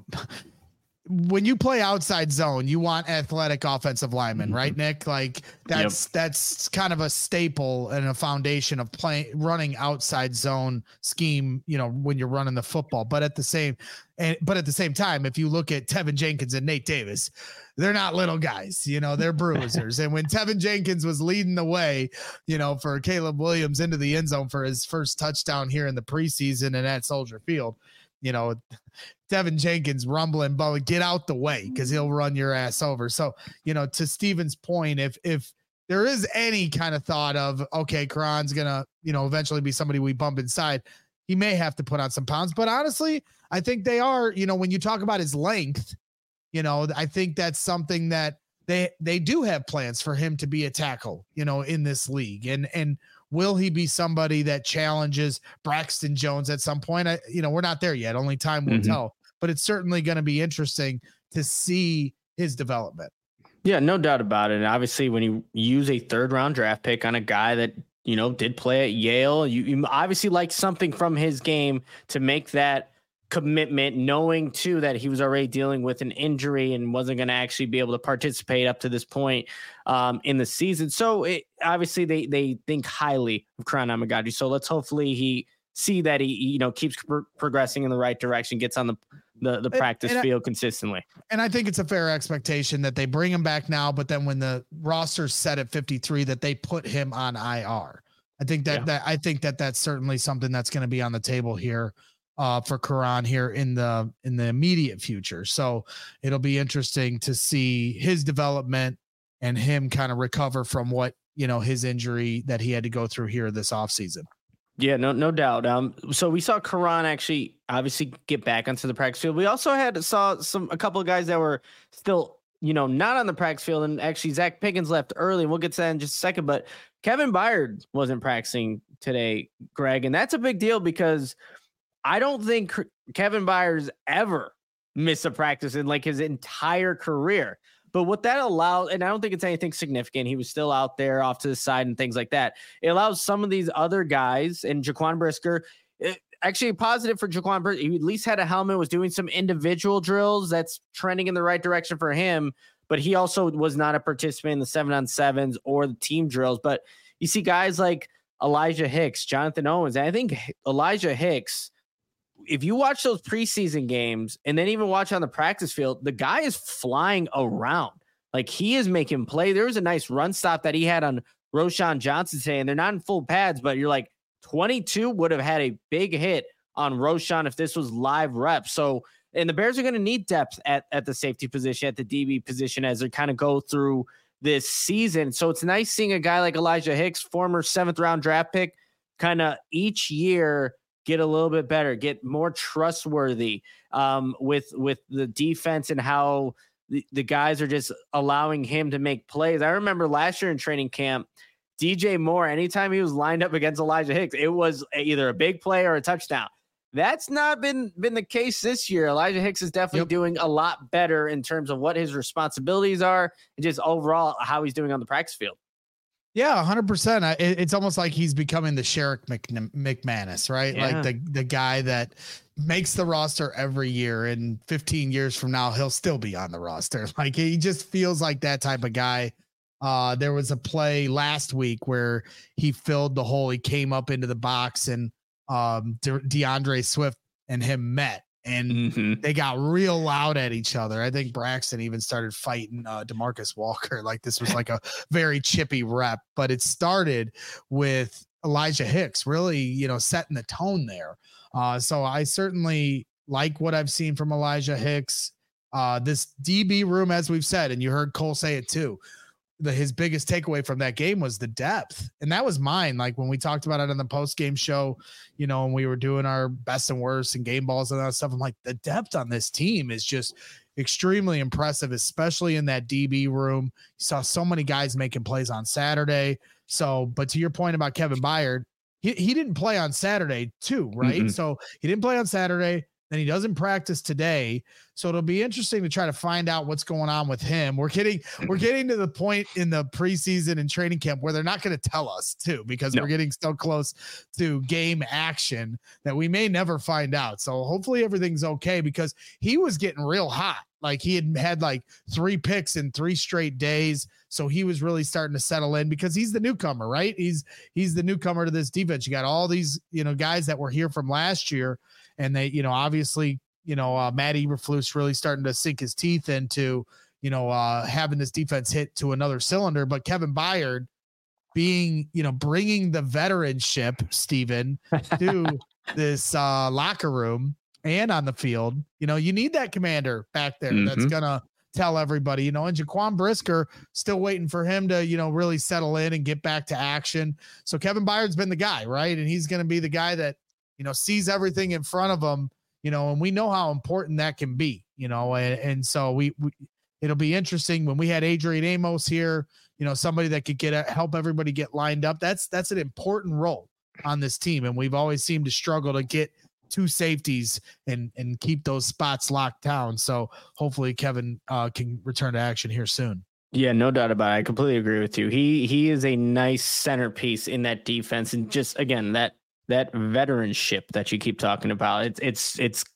when you play outside zone, you want athletic offensive linemen, right, Nick? Like that's kind of a staple and a foundation of running outside zone scheme, when you're running the football. But at the same time, if you look at Tevin Jenkins and Nate Davis, they're not little guys, they're bruisers. And when Tevin Jenkins was leading the way, for Caleb Williams into the end zone for his first touchdown here in the preseason and at Soldier Field, Tevin Jenkins rumbling, but get out the way because he'll run your ass over. So, to Steven's point, if there is any kind of thought of, okay, Karan's going to, eventually be somebody we bump inside, he may have to put on some pounds. But honestly, I think they are, when you talk about his length, I think that's something that they do have plans for him to be a tackle, in this league. And will he be somebody that challenges Braxton Jones at some point? We're not there yet. Only time will tell. But it's certainly going to be interesting to see his development. Yeah, no doubt about it. And obviously, when you use a 3rd round draft pick on a guy that, did play at Yale, you obviously like something from his game to make that commitment, knowing too that he was already dealing with an injury and wasn't going to actually be able to participate up to this point in the season. So obviously they think highly of Karan Amagaji. So let's hopefully he see that he keeps progressing in the right direction, gets on the practice field consistently. And I think it's a fair expectation that they bring him back now, but then when the roster's set at 53, that they put him on IR. I think that's certainly something that's going to be on the table here for Karan here in the immediate future. So it'll be interesting to see his development and him kind of recover from what, his injury that he had to go through here this offseason. Yeah, no doubt. So we saw Karan actually obviously get back onto the practice field. We also saw a couple of guys that were still, not on the practice field. And actually Zach Pickens left early, and we'll get to that in just a second. But Kevin Byard wasn't practicing today, Greg. And that's a big deal because I don't think Kevin Byard's ever missed a practice in like his entire career. But what that allowed, and I don't think it's anything significant, he was still out there off to the side and things like that. It allows some of these other guys, and Jaquan Brisker, actually positive for Jaquan Brisker. He at least had a helmet, was doing some individual drills. That's trending in the right direction for him. But he also was not a participant in the 7-on-7s or the team drills. But you see guys like Elijah Hicks, Jonathan Owens, and I think Elijah Hicks, if you watch those preseason games and then even watch on the practice field, the guy is flying around. Like, he is making play. There was a nice run stop that he had on Roschon Johnson today, and they're not in full pads, but you're like, 22 would have had a big hit on Roschon if this was live reps. So, and the Bears are going to need depth at the safety position, at the DB position, as they kind of go through this season. So it's nice seeing a guy like Elijah Hicks, former 7th round draft pick, kind of each year get a little bit better, get more trustworthy with the defense and how the guys are just allowing him to make plays. I remember last year in training camp, DJ Moore, anytime he was lined up against Elijah Hicks, it was either a big play or a touchdown. That's not been the case this year. Elijah Hicks is definitely doing a lot better in terms of what his responsibilities are and just overall how he's doing on the practice field. Yeah, 100%. It's almost like he's becoming the Sherrick McManus, right? Yeah. Like the guy that makes the roster every year, and 15 years from now, he'll still be on the roster. Like, he just feels like that type of guy. There was a play last week where he filled the hole. He came up into the box, and DeAndre Swift and him met, and they got real loud at each other. I think Braxton even started fighting DeMarcus Walker. Like, this was like a very chippy rep, but it started with Elijah Hicks really, setting the tone there. So I certainly like what I've seen from Elijah Hicks. This DB room, as we've said, and you heard Cole say it too, his biggest takeaway from that game was the depth. And that was mine. Like, when we talked about it on the post-game show, and we were doing our best and worst and game balls and that stuff, I'm like, the depth on this team is just extremely impressive, especially in that DB room. You saw so many guys making plays on Saturday. So, but to your point about Kevin Byard, he didn't play on Saturday too, right? So he didn't play on Saturday. Then he doesn't practice today. So it'll be interesting to try to find out what's going on with him. We're getting to the point in the preseason and training camp where they're not going to tell us too, because we're getting so close to game action that we may never find out. So hopefully everything's okay, because he was getting real hot. Like, he had like 3 picks in 3 straight days. So he was really starting to settle in, because he's the newcomer, right? He's the newcomer to this defense. You got all these, guys that were here from last year, and they, obviously, Matt Eberflus really starting to sink his teeth into, having this defense hit to another cylinder. But Kevin Byard being, bringing the veteranship, Steven, to this locker room and on the field, you need that commander back there that's going to tell everybody, and Jaquan Brisker, still waiting for him to, really settle in and get back to action. So Kevin Byard's been the guy, right? And he's going to be the guy that, sees everything in front of him, and we know how important that can be, and so we it'll be interesting when we had Adrian Amos here, somebody that could help everybody get lined up. That's an important role on this team. And we've always seemed to struggle to get 2 safeties and keep those spots locked down. So hopefully Kevin can return to action here soon. Yeah, no doubt about it. I completely agree with you. He is a nice centerpiece in that defense. And just, again, that veteranship that you keep talking about, it's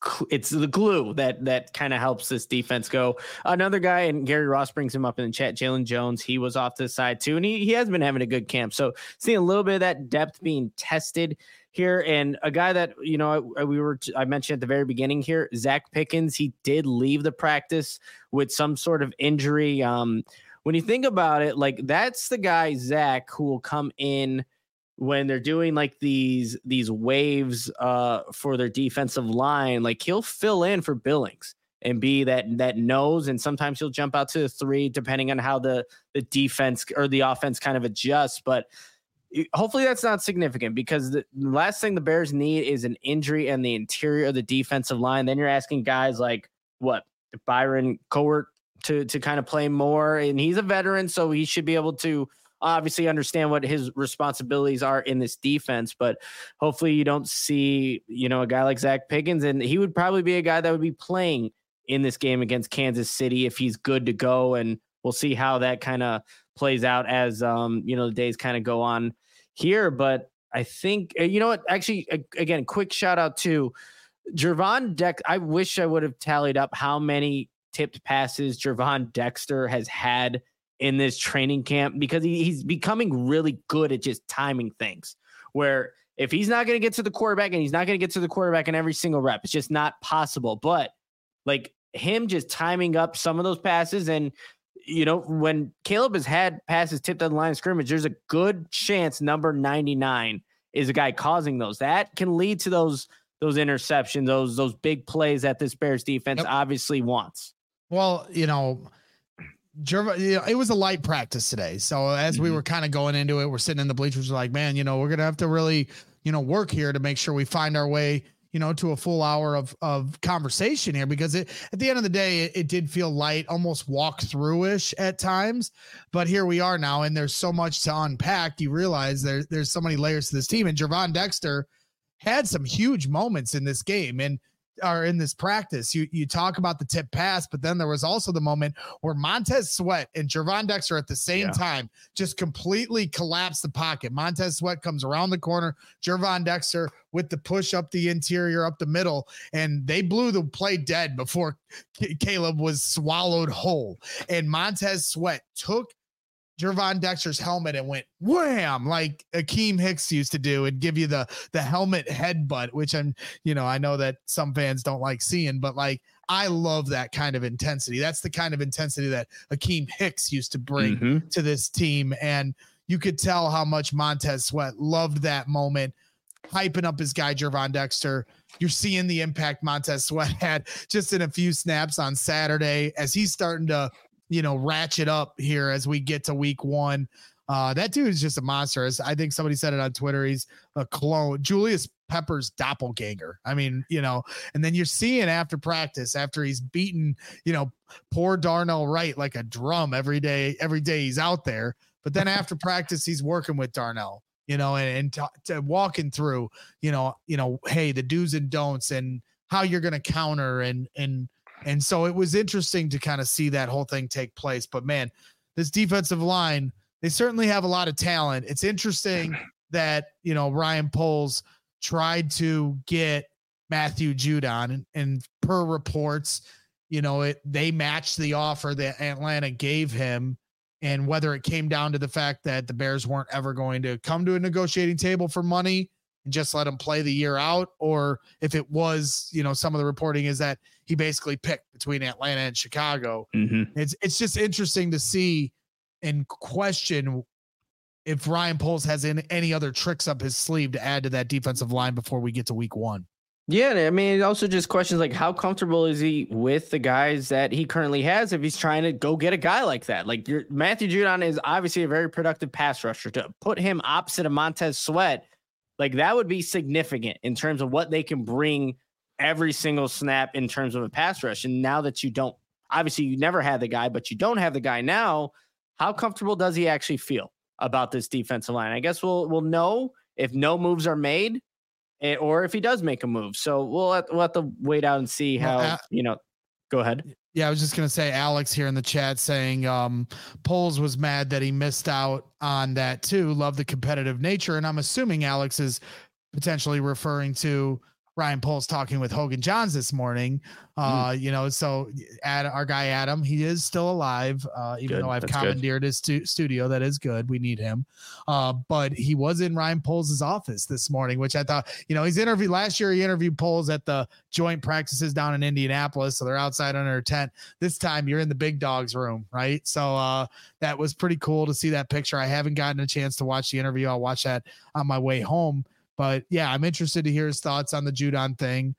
the glue that kind of helps this defense go. Another guy, and Gary Ross brings him up in the chat, Jalen Jones, he was off to the side too, and he has been having a good camp. So seeing a little bit of that depth being tested here, and a guy that, I mentioned at the very beginning here, Zach Pickens, he did leave the practice with some sort of injury. When you think about it, like, that's the guy, Zach, who will come in when they're doing like these waves for their defensive line. Like, he'll fill in for Billings and be that nose, and sometimes he'll jump out to the 3 depending on how the defense or the offense kind of adjusts. But hopefully that's not significant, because the last thing the Bears need is an injury in the interior of the defensive line. Then you're asking guys like Byron Cowart to kind of play more, and he's a veteran, so he should be able to obviously understand what his responsibilities are in this defense. But hopefully you don't see, a guy like Zach Pickens, and he would probably be a guy that would be playing in this game against Kansas City if he's good to go. And we'll see how that kind of plays out as, the days kind of go on here. But I think, actually, again, quick shout out to Gervon Dexter. I wish I would have tallied up how many tipped passes Gervon Dexter has had in this training camp, because he's becoming really good at just timing things, where if he's not going to get to the quarterback, and he's not going to get to the quarterback in every single rep, it's just not possible. But like, him just timing up some of those passes, and when Caleb has had passes tipped on the line of scrimmage, there's a good chance number 99 is a guy causing those. That can lead to those interceptions, those big plays that this Bears defense obviously wants. Well, it was a light practice today. So as we were kind of going into it, we're sitting in the bleachers like, man, we're going to have to really, work here to make sure we find our way, to a full hour of conversation here, because at the end of the day, it did feel light, almost walk through-ish at times, but here we are now, and there's so much to unpack. You realize there's so many layers to this team, and Gervon Dexter had some huge moments in this game and are in this practice. You talk about the tip pass, but then there was also the moment where Montez Sweat and Gervon Dexter at the same time just completely collapsed the pocket. Montez Sweat comes around the corner, Gervon Dexter with the push up the interior, up the middle, and they blew the play dead before Caleb was swallowed whole. And Montez Sweat took Gervon Dexter's helmet and went wham, like Akeem Hicks used to do, and give you the helmet headbutt, which I know that some fans don't like seeing, but like, I love that kind of intensity. That's the kind of intensity that Akeem Hicks used to bring to this team. And you could tell how much Montez Sweat loved that moment, hyping up his guy, Gervon Dexter. You're seeing the impact Montez Sweat had just in a few snaps on Saturday as he's starting to ratchet up here as we get to week 1. That dude is just a monster. As I think somebody said it on Twitter, he's a clone, Julius Pepper's doppelganger. I mean, and then you're seeing after practice, after he's beaten, poor Darnell Wright like a drum every day he's out there. But then after practice, he's working with Darnell, and walking through, hey, the do's and don'ts and how you're going to counter and so it was interesting to kind of see that whole thing take place. But man, this defensive line, they certainly have a lot of talent. It's interesting that, Ryan Poles tried to get Matthew Judon, and per reports, they matched the offer that Atlanta gave him. And whether it came down to the fact that the Bears weren't ever going to come to a negotiating table for money and just let him play the year out, or if it was, some of the reporting is that he basically picked between Atlanta and Chicago. It's just interesting to see and question if Ryan Poles has any other tricks up his sleeve to add to that defensive line before we get to week 1. Yeah, I mean, it also just questions like how comfortable is he with the guys that he currently has if he's trying to go get a guy like that. Like Matthew Judon is obviously a very productive pass rusher. To put him opposite of Montez Sweat, like that would be significant in terms of what they can bring every single snap in terms of a pass rush. And now that you never had the guy, but you don't have the guy now, how comfortable does he actually feel about this defensive line? I guess we'll know if no moves are made or if he does make a move. So we'll have to wait out and see how, go ahead. Yeah, I was just going to say, Alex here in the chat saying Poles was mad that he missed out on that too. Love the competitive nature. And I'm assuming Alex is potentially referring to Ryan Poles talking with Hogan Johns this morning. So our guy Adam, he is still alive, even though I've commandeered his studio. That is good. We need him. But he was in Ryan Poles' office this morning, which I thought, he's interviewed last year. He interviewed Poles at the joint practices down in Indianapolis. So they're outside under a tent. This time you're in the big dog's room, right? So that was pretty cool to see that picture. I haven't gotten a chance to watch the interview. I'll watch that on my way home. But yeah, I'm interested to hear his thoughts on the Judon thing,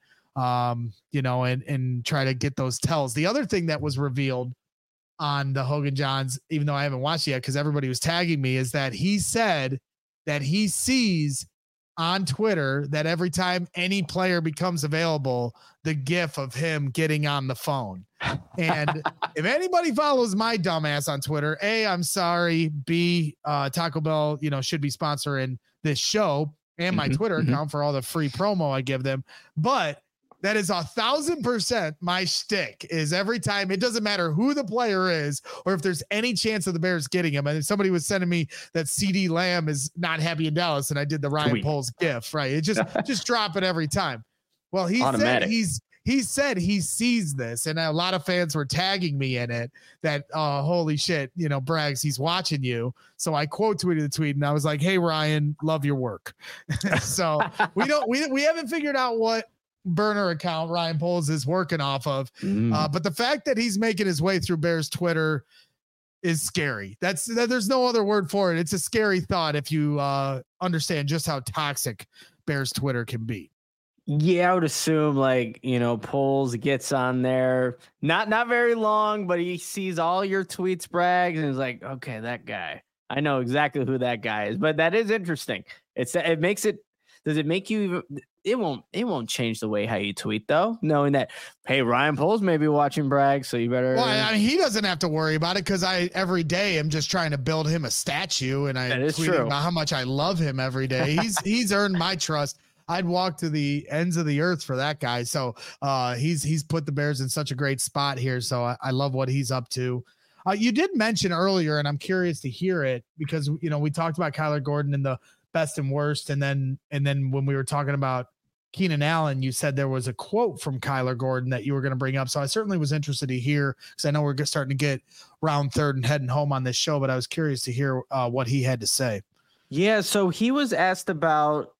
and try to get those tells. The other thing that was revealed on the Hogan Johns, even though I haven't watched it yet because everybody was tagging me, is that he said that he sees on Twitter that every time any player becomes available, the GIF of him getting on the phone. And if anybody follows my dumbass on Twitter, A, I'm sorry. B, Taco Bell, should be sponsoring this show and my Twitter account for all the free promo I give them. But that is 1,000% my shtick, is every time, it doesn't matter who the player is or if there's any chance of the Bears getting him. And if somebody was sending me that CD Lamb is not happy in Dallas and I did the Ryan Poles GIF, right? It just drop it every time. Well, he said he sees this, and a lot of fans were tagging me in it that, holy shit, Braggs, he's watching you. So I quote tweeted the tweet and I was like, hey, Ryan, love your work. So we haven't figured out what burner account Ryan Poles is working off of. But the fact that he's making his way through Bears Twitter is scary. There's no other word for it. It's a scary thought if you understand just how toxic Bears Twitter can be. Yeah, I would assume Poles gets on there, not very long, but he sees all your tweets, Braggs, and he's like, okay, that guy, I know exactly who that guy is. But that is interesting. Does it make you it won't change the way how you tweet though, knowing that, hey, Ryan Poles may be watching Bragg, so you better. Well, I mean, he doesn't have to worry about it because I every day am just trying to build him a statue, and I tweet about how much I love him every day. He's earned my trust. I'd walk to the ends of the earth for that guy. So he's put the Bears in such a great spot here. So I love what he's up to. You did mention earlier, and I'm curious to hear it because, you know, we talked about Kyler Gordon and the best and worst. And then when we were talking about Keenan Allen, you said there was a quote from Kyler Gordon that you were going to bring up. So I certainly was interested to hear, because I know we're starting to get round third and heading home on this show, but I was curious to hear what he had to say. Yeah. So he was asked about,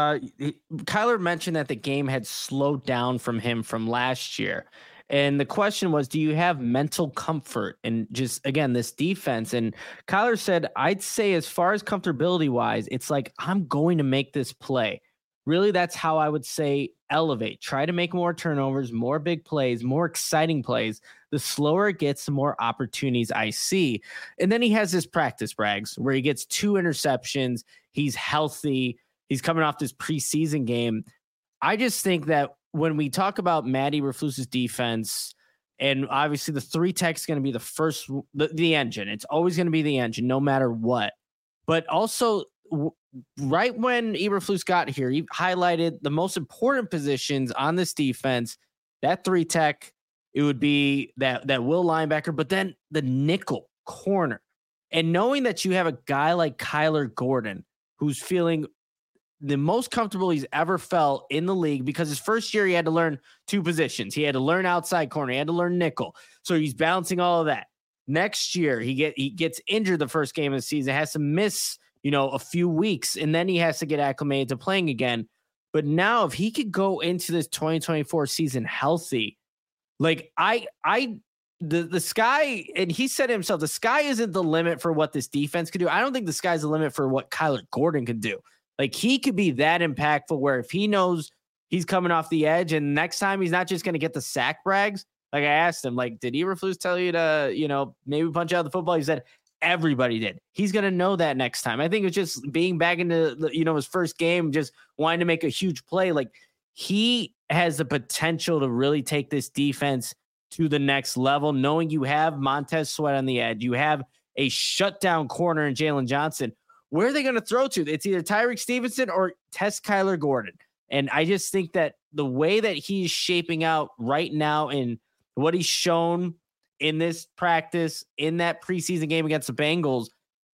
Kyler mentioned that the game had slowed down from him from last year. And the question was, do you have mental comfort and just, again, this defense? And Kyler said, I'd say as far as comfortability wise, it's like, I'm going to make this play. Really, that's how I would say elevate. Try to make more turnovers, more big plays, more exciting plays. The slower it gets, the more opportunities I see. And then he has this practice brags where he gets 2 interceptions. He's healthy. He's coming off this preseason game. I just think that when we talk about Matt Eberflus's defense, and obviously the 3-tech is going to be the engine. It's always going to be the engine, no matter what. But also, right when Eberflus got here, he highlighted the most important positions on this defense. That 3-tech, it would be that will linebacker, but then the nickel corner. And knowing that you have a guy like Kyler Gordon, who's feeling the most comfortable he's ever felt in the league, because his first year he had to learn 2 positions. He had to learn outside corner. He had to learn nickel. So he's balancing all of that. Next year, he gets injured the first game of the season, has to miss, a few weeks, and then he has to get acclimated to playing again. But now if he could go into this 2024 season healthy, like the sky, and he said himself, the sky isn't the limit for what this defense could do. I don't think the sky's the limit for what Kyler Gordon can do. Like, he could be that impactful where if he knows he's coming off the edge and next time he's not just going to get the sack brags. Like, I asked him, like, did Eberflus tell you to, maybe punch out the football? He said, everybody did. He's going to know that next time. I think it's just being back into, his first game, just wanting to make a huge play. Like, he has the potential to really take this defense to the next level, knowing you have Montez Sweat on the edge. You have a shutdown corner in Jalen Johnson. Where are they going to throw to? It's either Tyreek Stevenson or test Kyler Gordon. And I just think that the way that he's shaping out right now and what he's shown in this practice, in that preseason game against the Bengals,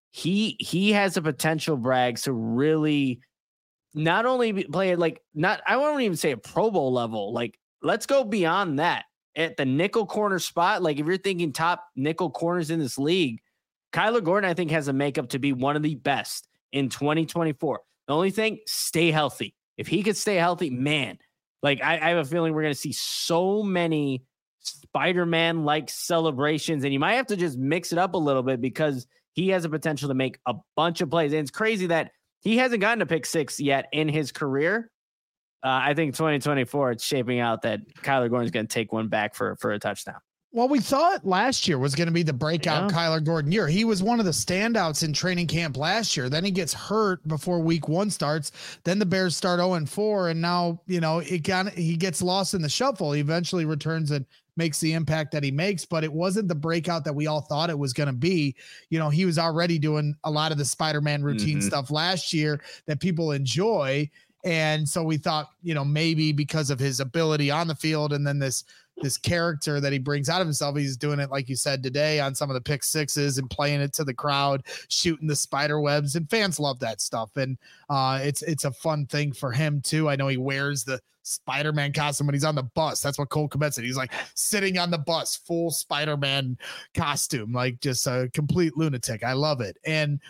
he has a potential, Braggs, to really not only play it I won't even say a Pro Bowl level. Like, let's go beyond that at the nickel corner spot. Like, if you're thinking top nickel corners in this league, Kyler Gordon, I think, has a makeup to be one of the best in 2024. The only thing, stay healthy. If he could stay healthy, man, like I have a feeling we're going to see so many Spider-Man-like celebrations, and you might have to just mix it up a little bit because he has a potential to make a bunch of plays. And it's crazy that he hasn't gotten a pick 6 yet in his career. I think 2024, it's shaping out that Kyler Gordon's going to take one back for a touchdown. Well, we thought last year was going to be the breakout Kyler Gordon year. He was one of the standouts in training camp last year. Then he gets hurt before week 1 starts. Then the Bears start 0-4. And now, he gets lost in the shuffle. He eventually returns and makes the impact that he makes, but it wasn't the breakout that we all thought it was going to be. He was already doing a lot of the Spider-Man routine stuff last year that people enjoy. And so we thought, maybe because of his ability on the field and then this character that he brings out of himself, he's doing it, like you said, today on some of the pick 6s and playing it to the crowd, shooting the spider webs, and fans love that stuff. And it's a fun thing for him too. I know he wears the Spider-Man costume when he's on the bus. That's what Cole Kmet said. He's like sitting on the bus, full Spider-Man costume, like just a complete lunatic. I love it. And,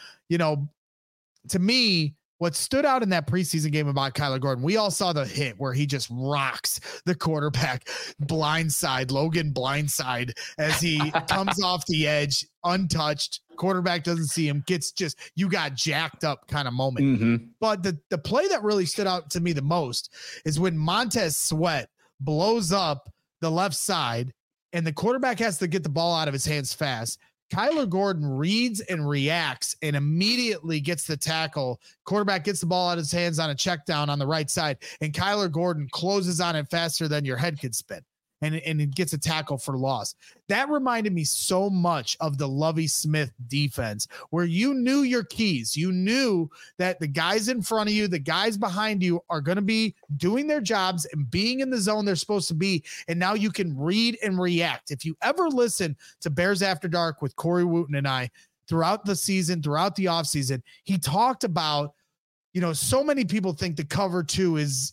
to me, what stood out in that preseason game about Kyler Gordon, we all saw the hit where he just rocks the quarterback Logan blindside as he comes off the edge, untouched. Quarterback doesn't see him, you got jacked up kind of moment. But the play that really stood out to me the most is when Montez Sweat blows up the left side and the quarterback has to get the ball out of his hands fast. Kyler Gordon reads and reacts and immediately gets the tackle. Quarterback gets the ball out of his hands on a check down on the right side, and Kyler Gordon closes on it faster than your head could spin. And it gets a tackle for loss. That reminded me so much of the Lovie Smith defense, where you knew your keys. You knew that the guys in front of you, the guys behind you are going to be doing their jobs and being in the zone they're supposed to be. And now you can read and react. If you ever listen to Bears After Dark with Corey Wooten and I throughout the season, throughout the offseason, he talked about, so many people think the cover 2 is,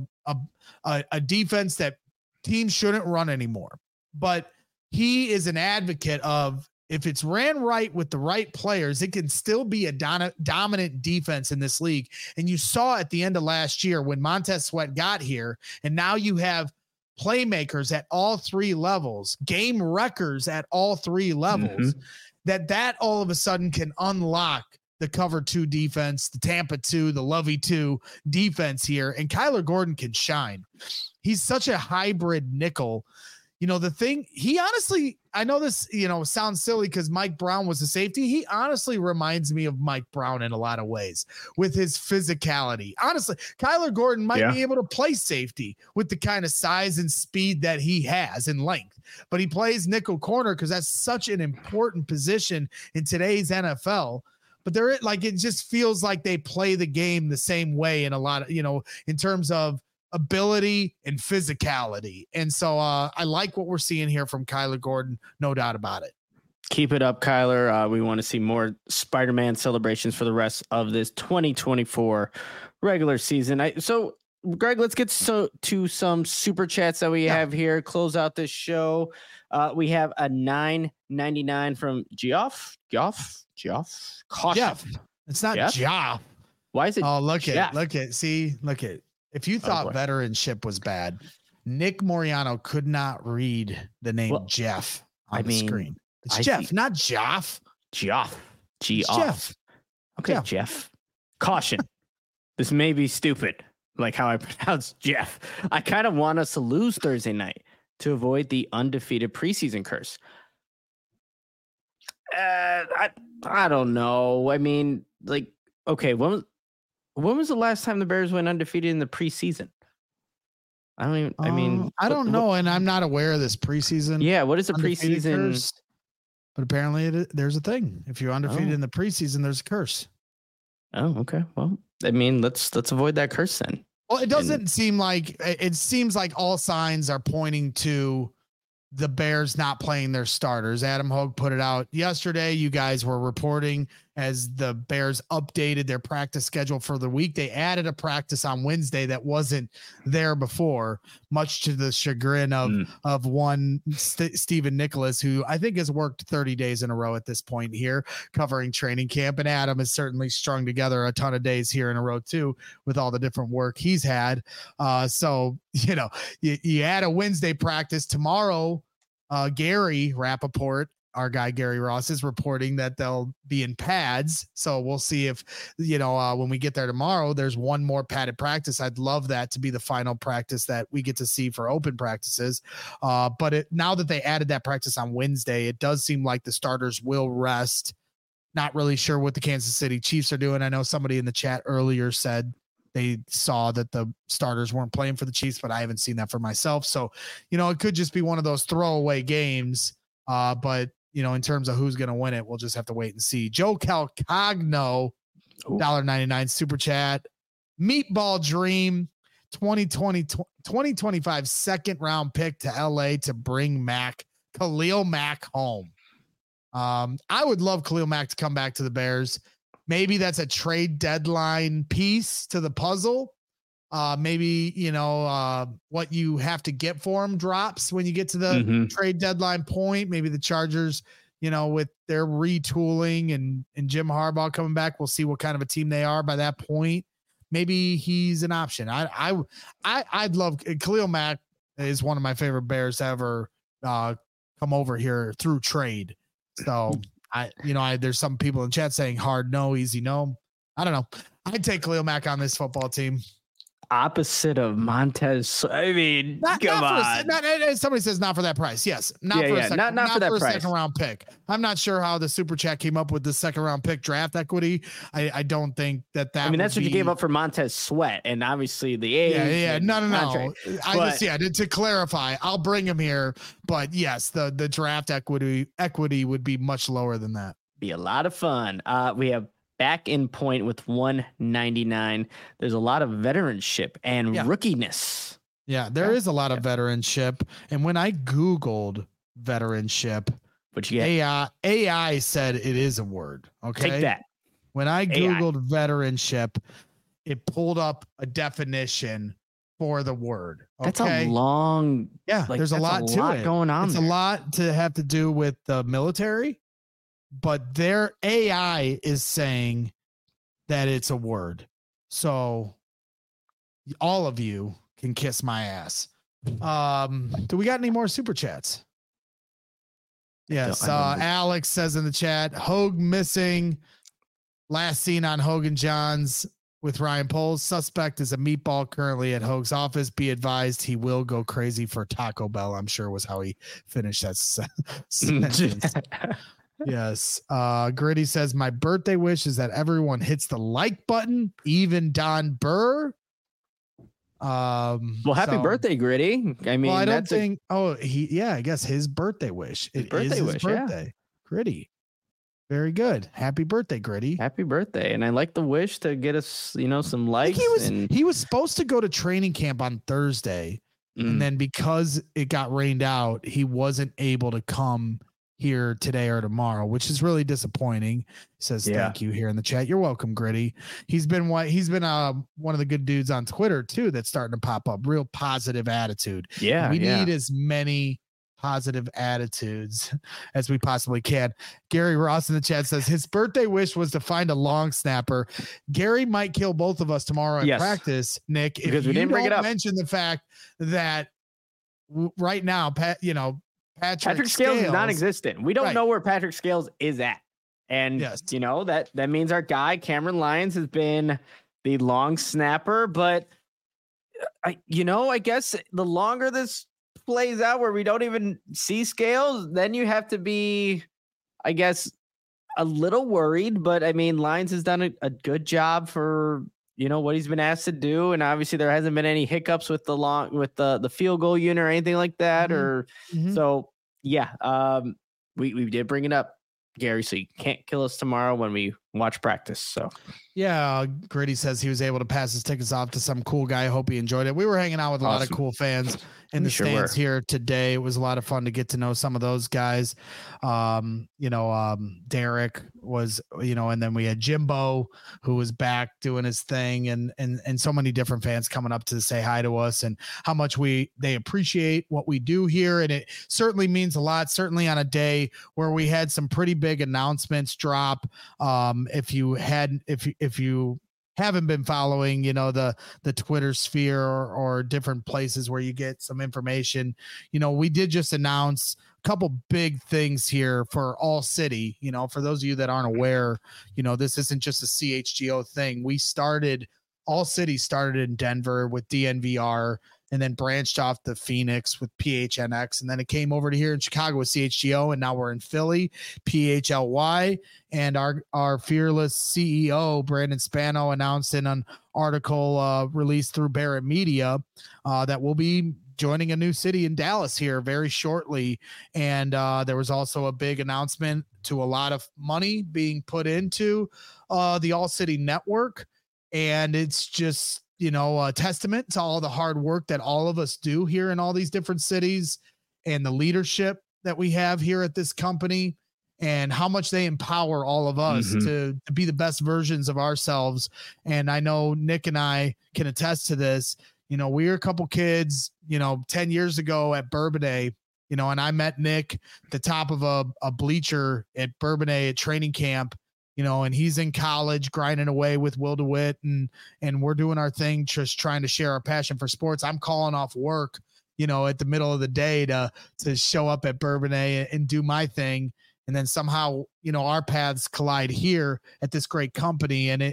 a defense that teams shouldn't run anymore, but he is an advocate of, if it's ran right with the right players, it can still be a dominant defense in this league. And you saw at the end of last year when Montez Sweat got here, and now you have playmakers at all 3 levels, game wreckers at all 3 levels, that all of a sudden can unlock the cover 2 defense, the Tampa 2, the Lovey 2 defense here. And Kyler Gordon can shine. He's such a hybrid nickel. The thing, he honestly, I know this, sounds silly because Mike Brown was a safety. He honestly reminds me of Mike Brown in a lot of ways with his physicality. Honestly, Kyler Gordon might be able to play safety with the kind of size and speed that he has in length, but he plays nickel corner because that's such an important position in today's NFL. But it just feels like they play the game the same way in a lot of, in terms of ability and physicality. And so I like what we're seeing here from Kyler Gordon. No doubt about it. Keep it up, Kyler. We want to see more Spider-Man celebrations for the rest of this 2024 regular season. So Greg, let's get to some super chats that we have here. Close out this show. We have a $9.99 from Geoff. Caution. Jeff. It's not Geoff. Why is it? Oh, look at. See. If you thought veteranship was bad, Nick Moriano could not read the name Jeff on the screen. It's Jeff, not Geoff. Geoff. Jeff. Okay, Jeff. Caution. This may be stupid, like how I pronounce Jeff. I kind of want us to lose Thursday night to avoid the undefeated preseason curse. I don't know. I mean, okay, when was the last time the Bears went undefeated in the preseason? I don't know, and I'm not aware of this preseason. Yeah, what is a preseason? Curse, but apparently there's a thing. If you're undefeated in the preseason, there's a curse. Oh, okay. Well, let's avoid that curse then. Well, it doesn't seem like it seems like all signs are pointing to the Bears not playing their starters. Adam Hogue put it out yesterday. You guys were reporting as the Bears updated their practice schedule for the week. They added a practice on Wednesday that wasn't there before, much to the chagrin of one Stephen Nicholas, who I think has worked 30 days in a row at this point here covering training camp. And Adam has certainly strung together a ton of days here in a row too, with all the different work he's had. So, you add a Wednesday practice tomorrow. Gary Rappaport, our guy Gary Ross, is reporting that they'll be in pads. So we'll see if, when we get there tomorrow, there's one more padded practice. I'd love that to be the final practice that we get to see for open practices. But now that they added that practice on Wednesday, it does seem like the starters will rest. Not really sure what the Kansas City Chiefs are doing. I know somebody in the chat earlier said they saw that the starters weren't playing for the Chiefs, but I haven't seen that for myself. So, it could just be one of those throwaway games. But, in terms of who's going to win it, we'll just have to wait and see. Joe Calcagno, $1.99 super chat. Meatball Dream, 2025 second round pick to LA to bring Khalil Mack home. I would love Khalil Mack to come back to the Bears. Maybe that's a trade deadline piece to the puzzle. Maybe, what you have to get for him drops when you get to the trade deadline point. Maybe the Chargers, with their retooling and Jim Harbaugh coming back, we'll see what kind of a team they are by that point. Maybe he's an option. I'd love Khalil Mack is one of my favorite Bears to ever come over here through trade. So there's some people in chat saying hard no, easy no. I don't know. I'd take Khalil Mack on this football team. opposite of Montez. I mean, come on. Somebody says not for that price. Yes, not for a second round pick. I'm not sure how the super chat came up with the second round pick draft equity. I don't think that. I mean, that's what you gave up for Montez Sweat, and obviously the age. Yeah. No. To clarify, I'll bring him here, but yes, the draft equity would be much lower than that. Be a lot of fun. We have back in point with 199. There's a lot of veteranship and rookiness. Yeah, there is a lot of veteranship. And when I Googled veteranship, what you get? AI said it is a word. Okay. Take that. When I Googled veteranship, it pulled up a definition for the word. Okay? That's a long. Yeah, there's a lot to it going on. It's a lot to have to do with the military. But their AI is saying that it's a word. So all of you can kiss my ass. Do we got any more super chats? Yes. Alex says in the chat, Hogue missing. Last seen on Hogan Johns with Ryan Poles. Suspect is a meatball currently at Hogue's office. Be advised he will go crazy for Taco Bell, I'm sure was how he finished that sentence. Yes. Gritty says, my birthday wish is that everyone hits the like button, even Don Burr. Happy birthday, Gritty. I mean, I don't think, I guess his birthday wish. His birthday. Yeah. Gritty. Very good. Happy birthday, Gritty. Happy birthday. And I like the wish to get us, some likes. He was supposed to go to training camp on Thursday. And then because it got rained out, he wasn't able to come here today or tomorrow, which is really disappointing. He says thank you here in the chat. You're welcome, Gritty. He's been one of the good dudes on Twitter too that's starting to pop up. Real positive attitude. Yeah, we need as many positive attitudes as we possibly can. Gary Ross in the chat says his birthday wish was to find a long snapper. Gary might kill both of us tomorrow in practice, Nick, because we didn't bring it up. Mention the fact that right now, Patrick Scales is non-existent. We don't know where Patrick Scales is at. And, that means our guy, Cameron Lyons, has been the long snapper. But, I guess the longer this plays out where we don't even see Scales, then you have to be, I guess, a little worried. But, I mean, Lyons has done a good job for, what he's been asked to do. And obviously there hasn't been any hiccups with the field goal unit or anything like that. So we did bring it up, Gary, so you can't kill us tomorrow when we watch practice. So Gritty says he was able to pass his tickets off to some cool guy. I hope he enjoyed it. We were hanging out with a lot of cool fans in the stands here today. It was a lot of fun to get to know some of those guys. Derek was, and then we had Jimbo, who was back doing his thing, and so many different fans coming up to say hi to us and how much they appreciate what we do here. And it certainly means a lot, certainly on a day where we had some pretty big announcements drop. If you haven't been following, the Twitter sphere or different places where you get some information, we did just announce a couple big things here for All City. For those of you that aren't aware, this isn't just a CHGO thing. All City started in Denver with DNVR and then branched off to Phoenix with PHNX. And then it came over to here in Chicago with CHGO. And now we're in Philly, PHLY. And our fearless CEO, Brandon Spano, announced in an article released through Barrett Media that we'll be joining a new city in Dallas here very shortly. And there was also a big announcement to a lot of money being put into the All City Network. And it's just, a testament to all the hard work that all of us do here in all these different cities and the leadership that we have here at this company and how much they empower all of us to be the best versions of ourselves. And I know Nick and I can attest to this. We were a couple kids, 10 years ago at Bourbonnais, and I met Nick at the top of a bleacher at Bourbonnais at training camp. And he's in college grinding away with Will DeWitt and we're doing our thing, just trying to share our passion for sports. I'm calling off work, at the middle of the day to show up at Bourbonnais and do my thing. And then somehow, our paths collide here at this great company. And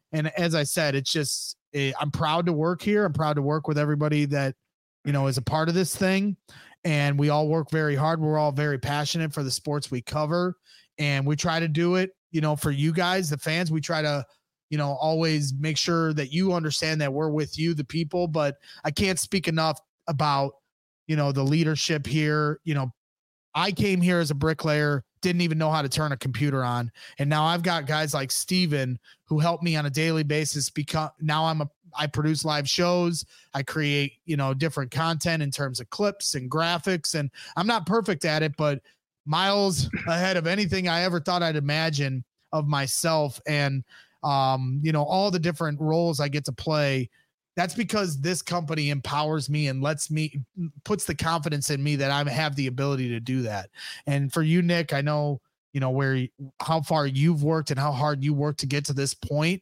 And as I said, it's just, I'm proud to work here. I'm proud to work with everybody that, you know, is a part of this thing. And we all work very hard. We're all very passionate for the sports we cover. And we try to do it, you know, for you guys, the fans. We try to, you know, always make sure that you understand that we're with you, the people. But I can't speak enough about, you know, the leadership here. You know, I came here as a bricklayer, didn't even know how to turn a computer on. And now I've got guys like Steven who help me on a daily basis because now I produce live shows. I create, you know, different content in terms of clips and graphics. And I'm not perfect at it, but miles ahead of anything I ever thought I'd imagine of myself. And, you know, all the different roles I get to play. That's because this company empowers me and puts the confidence in me that I have the ability to do that. And for you, Nick, I know, you know, how far you've worked and how hard you worked to get to this point.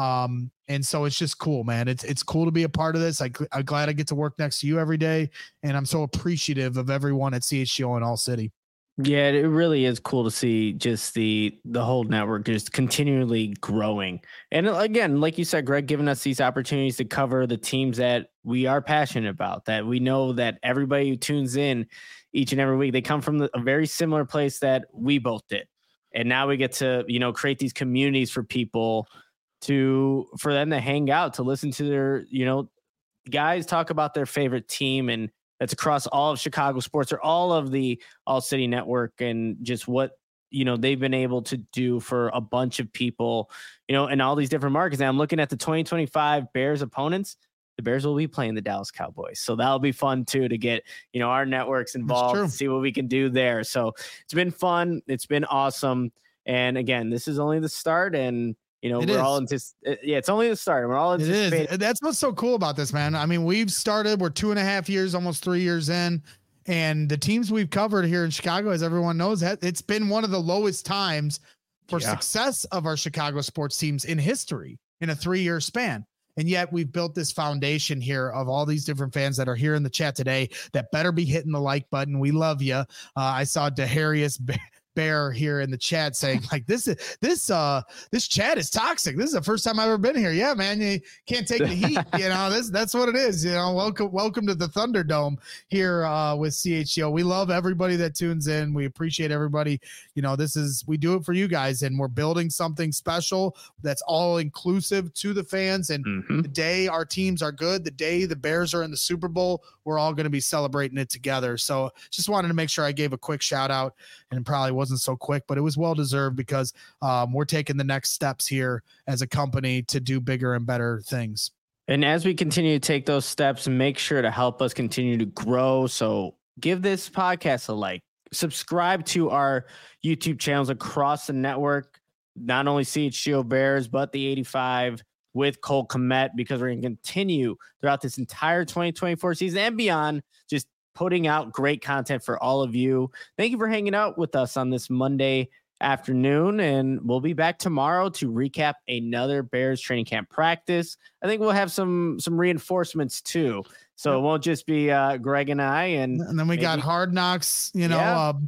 And so it's just cool, man. It's cool to be a part of this. I'm glad I get to work next to you every day. And I'm so appreciative of everyone at CHGO in All City. Yeah, it really is cool to see just the whole network just continually growing. And again, like you said, Greg, giving us these opportunities to cover the teams that we are passionate about, that we know that everybody who tunes in each and every week, they come from a very similar place that we both did. And now we get to, you know, create these communities for people for them to hang out, to listen to their, you know, guys talk about their favorite team, and that's across all of Chicago sports or all of the All City Network, and just what, you know, they've been able to do for a bunch of people, you know, in all these different markets. And I'm looking at the 2025 Bears opponents. The Bears will be playing the Dallas Cowboys. So that'll be fun too, to get, you know, our networks involved and see what we can do there. So it's been fun. It's been awesome. And again, this is only the start, and, you know, it's only the start. We're all anticipating. It is. That's what's so cool about this, man. I mean, we're 2.5 years, almost 3 years in, and the teams we've covered here in Chicago, as everyone knows, it's been one of the lowest times for success of our Chicago sports teams in history in a 3-year span. And yet we've built this foundation here of all these different fans that are here in the chat today that better be hitting the like button. We love you. I saw Deharius Bear here in the chat saying like, this chat is toxic. This is the first time I've ever been here. Yeah, man, you can't take the heat. You know, that's what it is. You know, welcome to the Thunderdome here with CHGO. We love everybody that tunes in. We appreciate everybody. You know, we do it for you guys, and we're building something special that's all inclusive to the fans. And the day our teams are good, the day the Bears are in the Super Bowl, we're all going to be celebrating it together. So just wanted to make sure I gave a quick shout out, and it probably wasn't so quick, but it was well deserved because we're taking the next steps here as a company to do bigger and better things. And as we continue to take those steps, make sure to help us continue to grow. So give this podcast a like, subscribe to our YouTube channels across the network, not only CHGO Bears, but the 85 with Cole Kmet, because we're going to continue throughout this entire 2024 season and beyond, just putting out great content for all of you. Thank you for hanging out with us on this Monday afternoon, and we'll be back tomorrow to recap another Bears training camp practice. I think we'll have some reinforcements too, so it won't just be Greg and I. And then we got Hard Knocks, our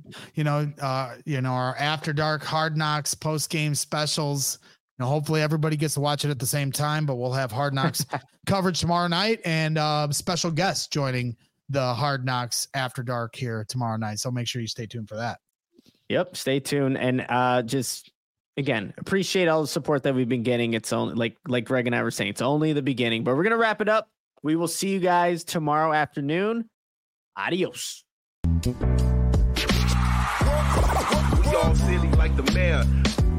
After Dark Hard Knocks post game specials. You know, hopefully everybody gets to watch it at the same time, but we'll have Hard Knocks coverage tomorrow night, and special guests joining the Hard Knocks After Dark here tomorrow night. So make sure you stay tuned for that. Yep. Stay tuned. And just, again, appreciate all the support that we've been getting. It's only like Greg and I were saying, it's only the beginning, but we're going to wrap it up. We will see you guys tomorrow afternoon. Adios. We all silly like the mayor.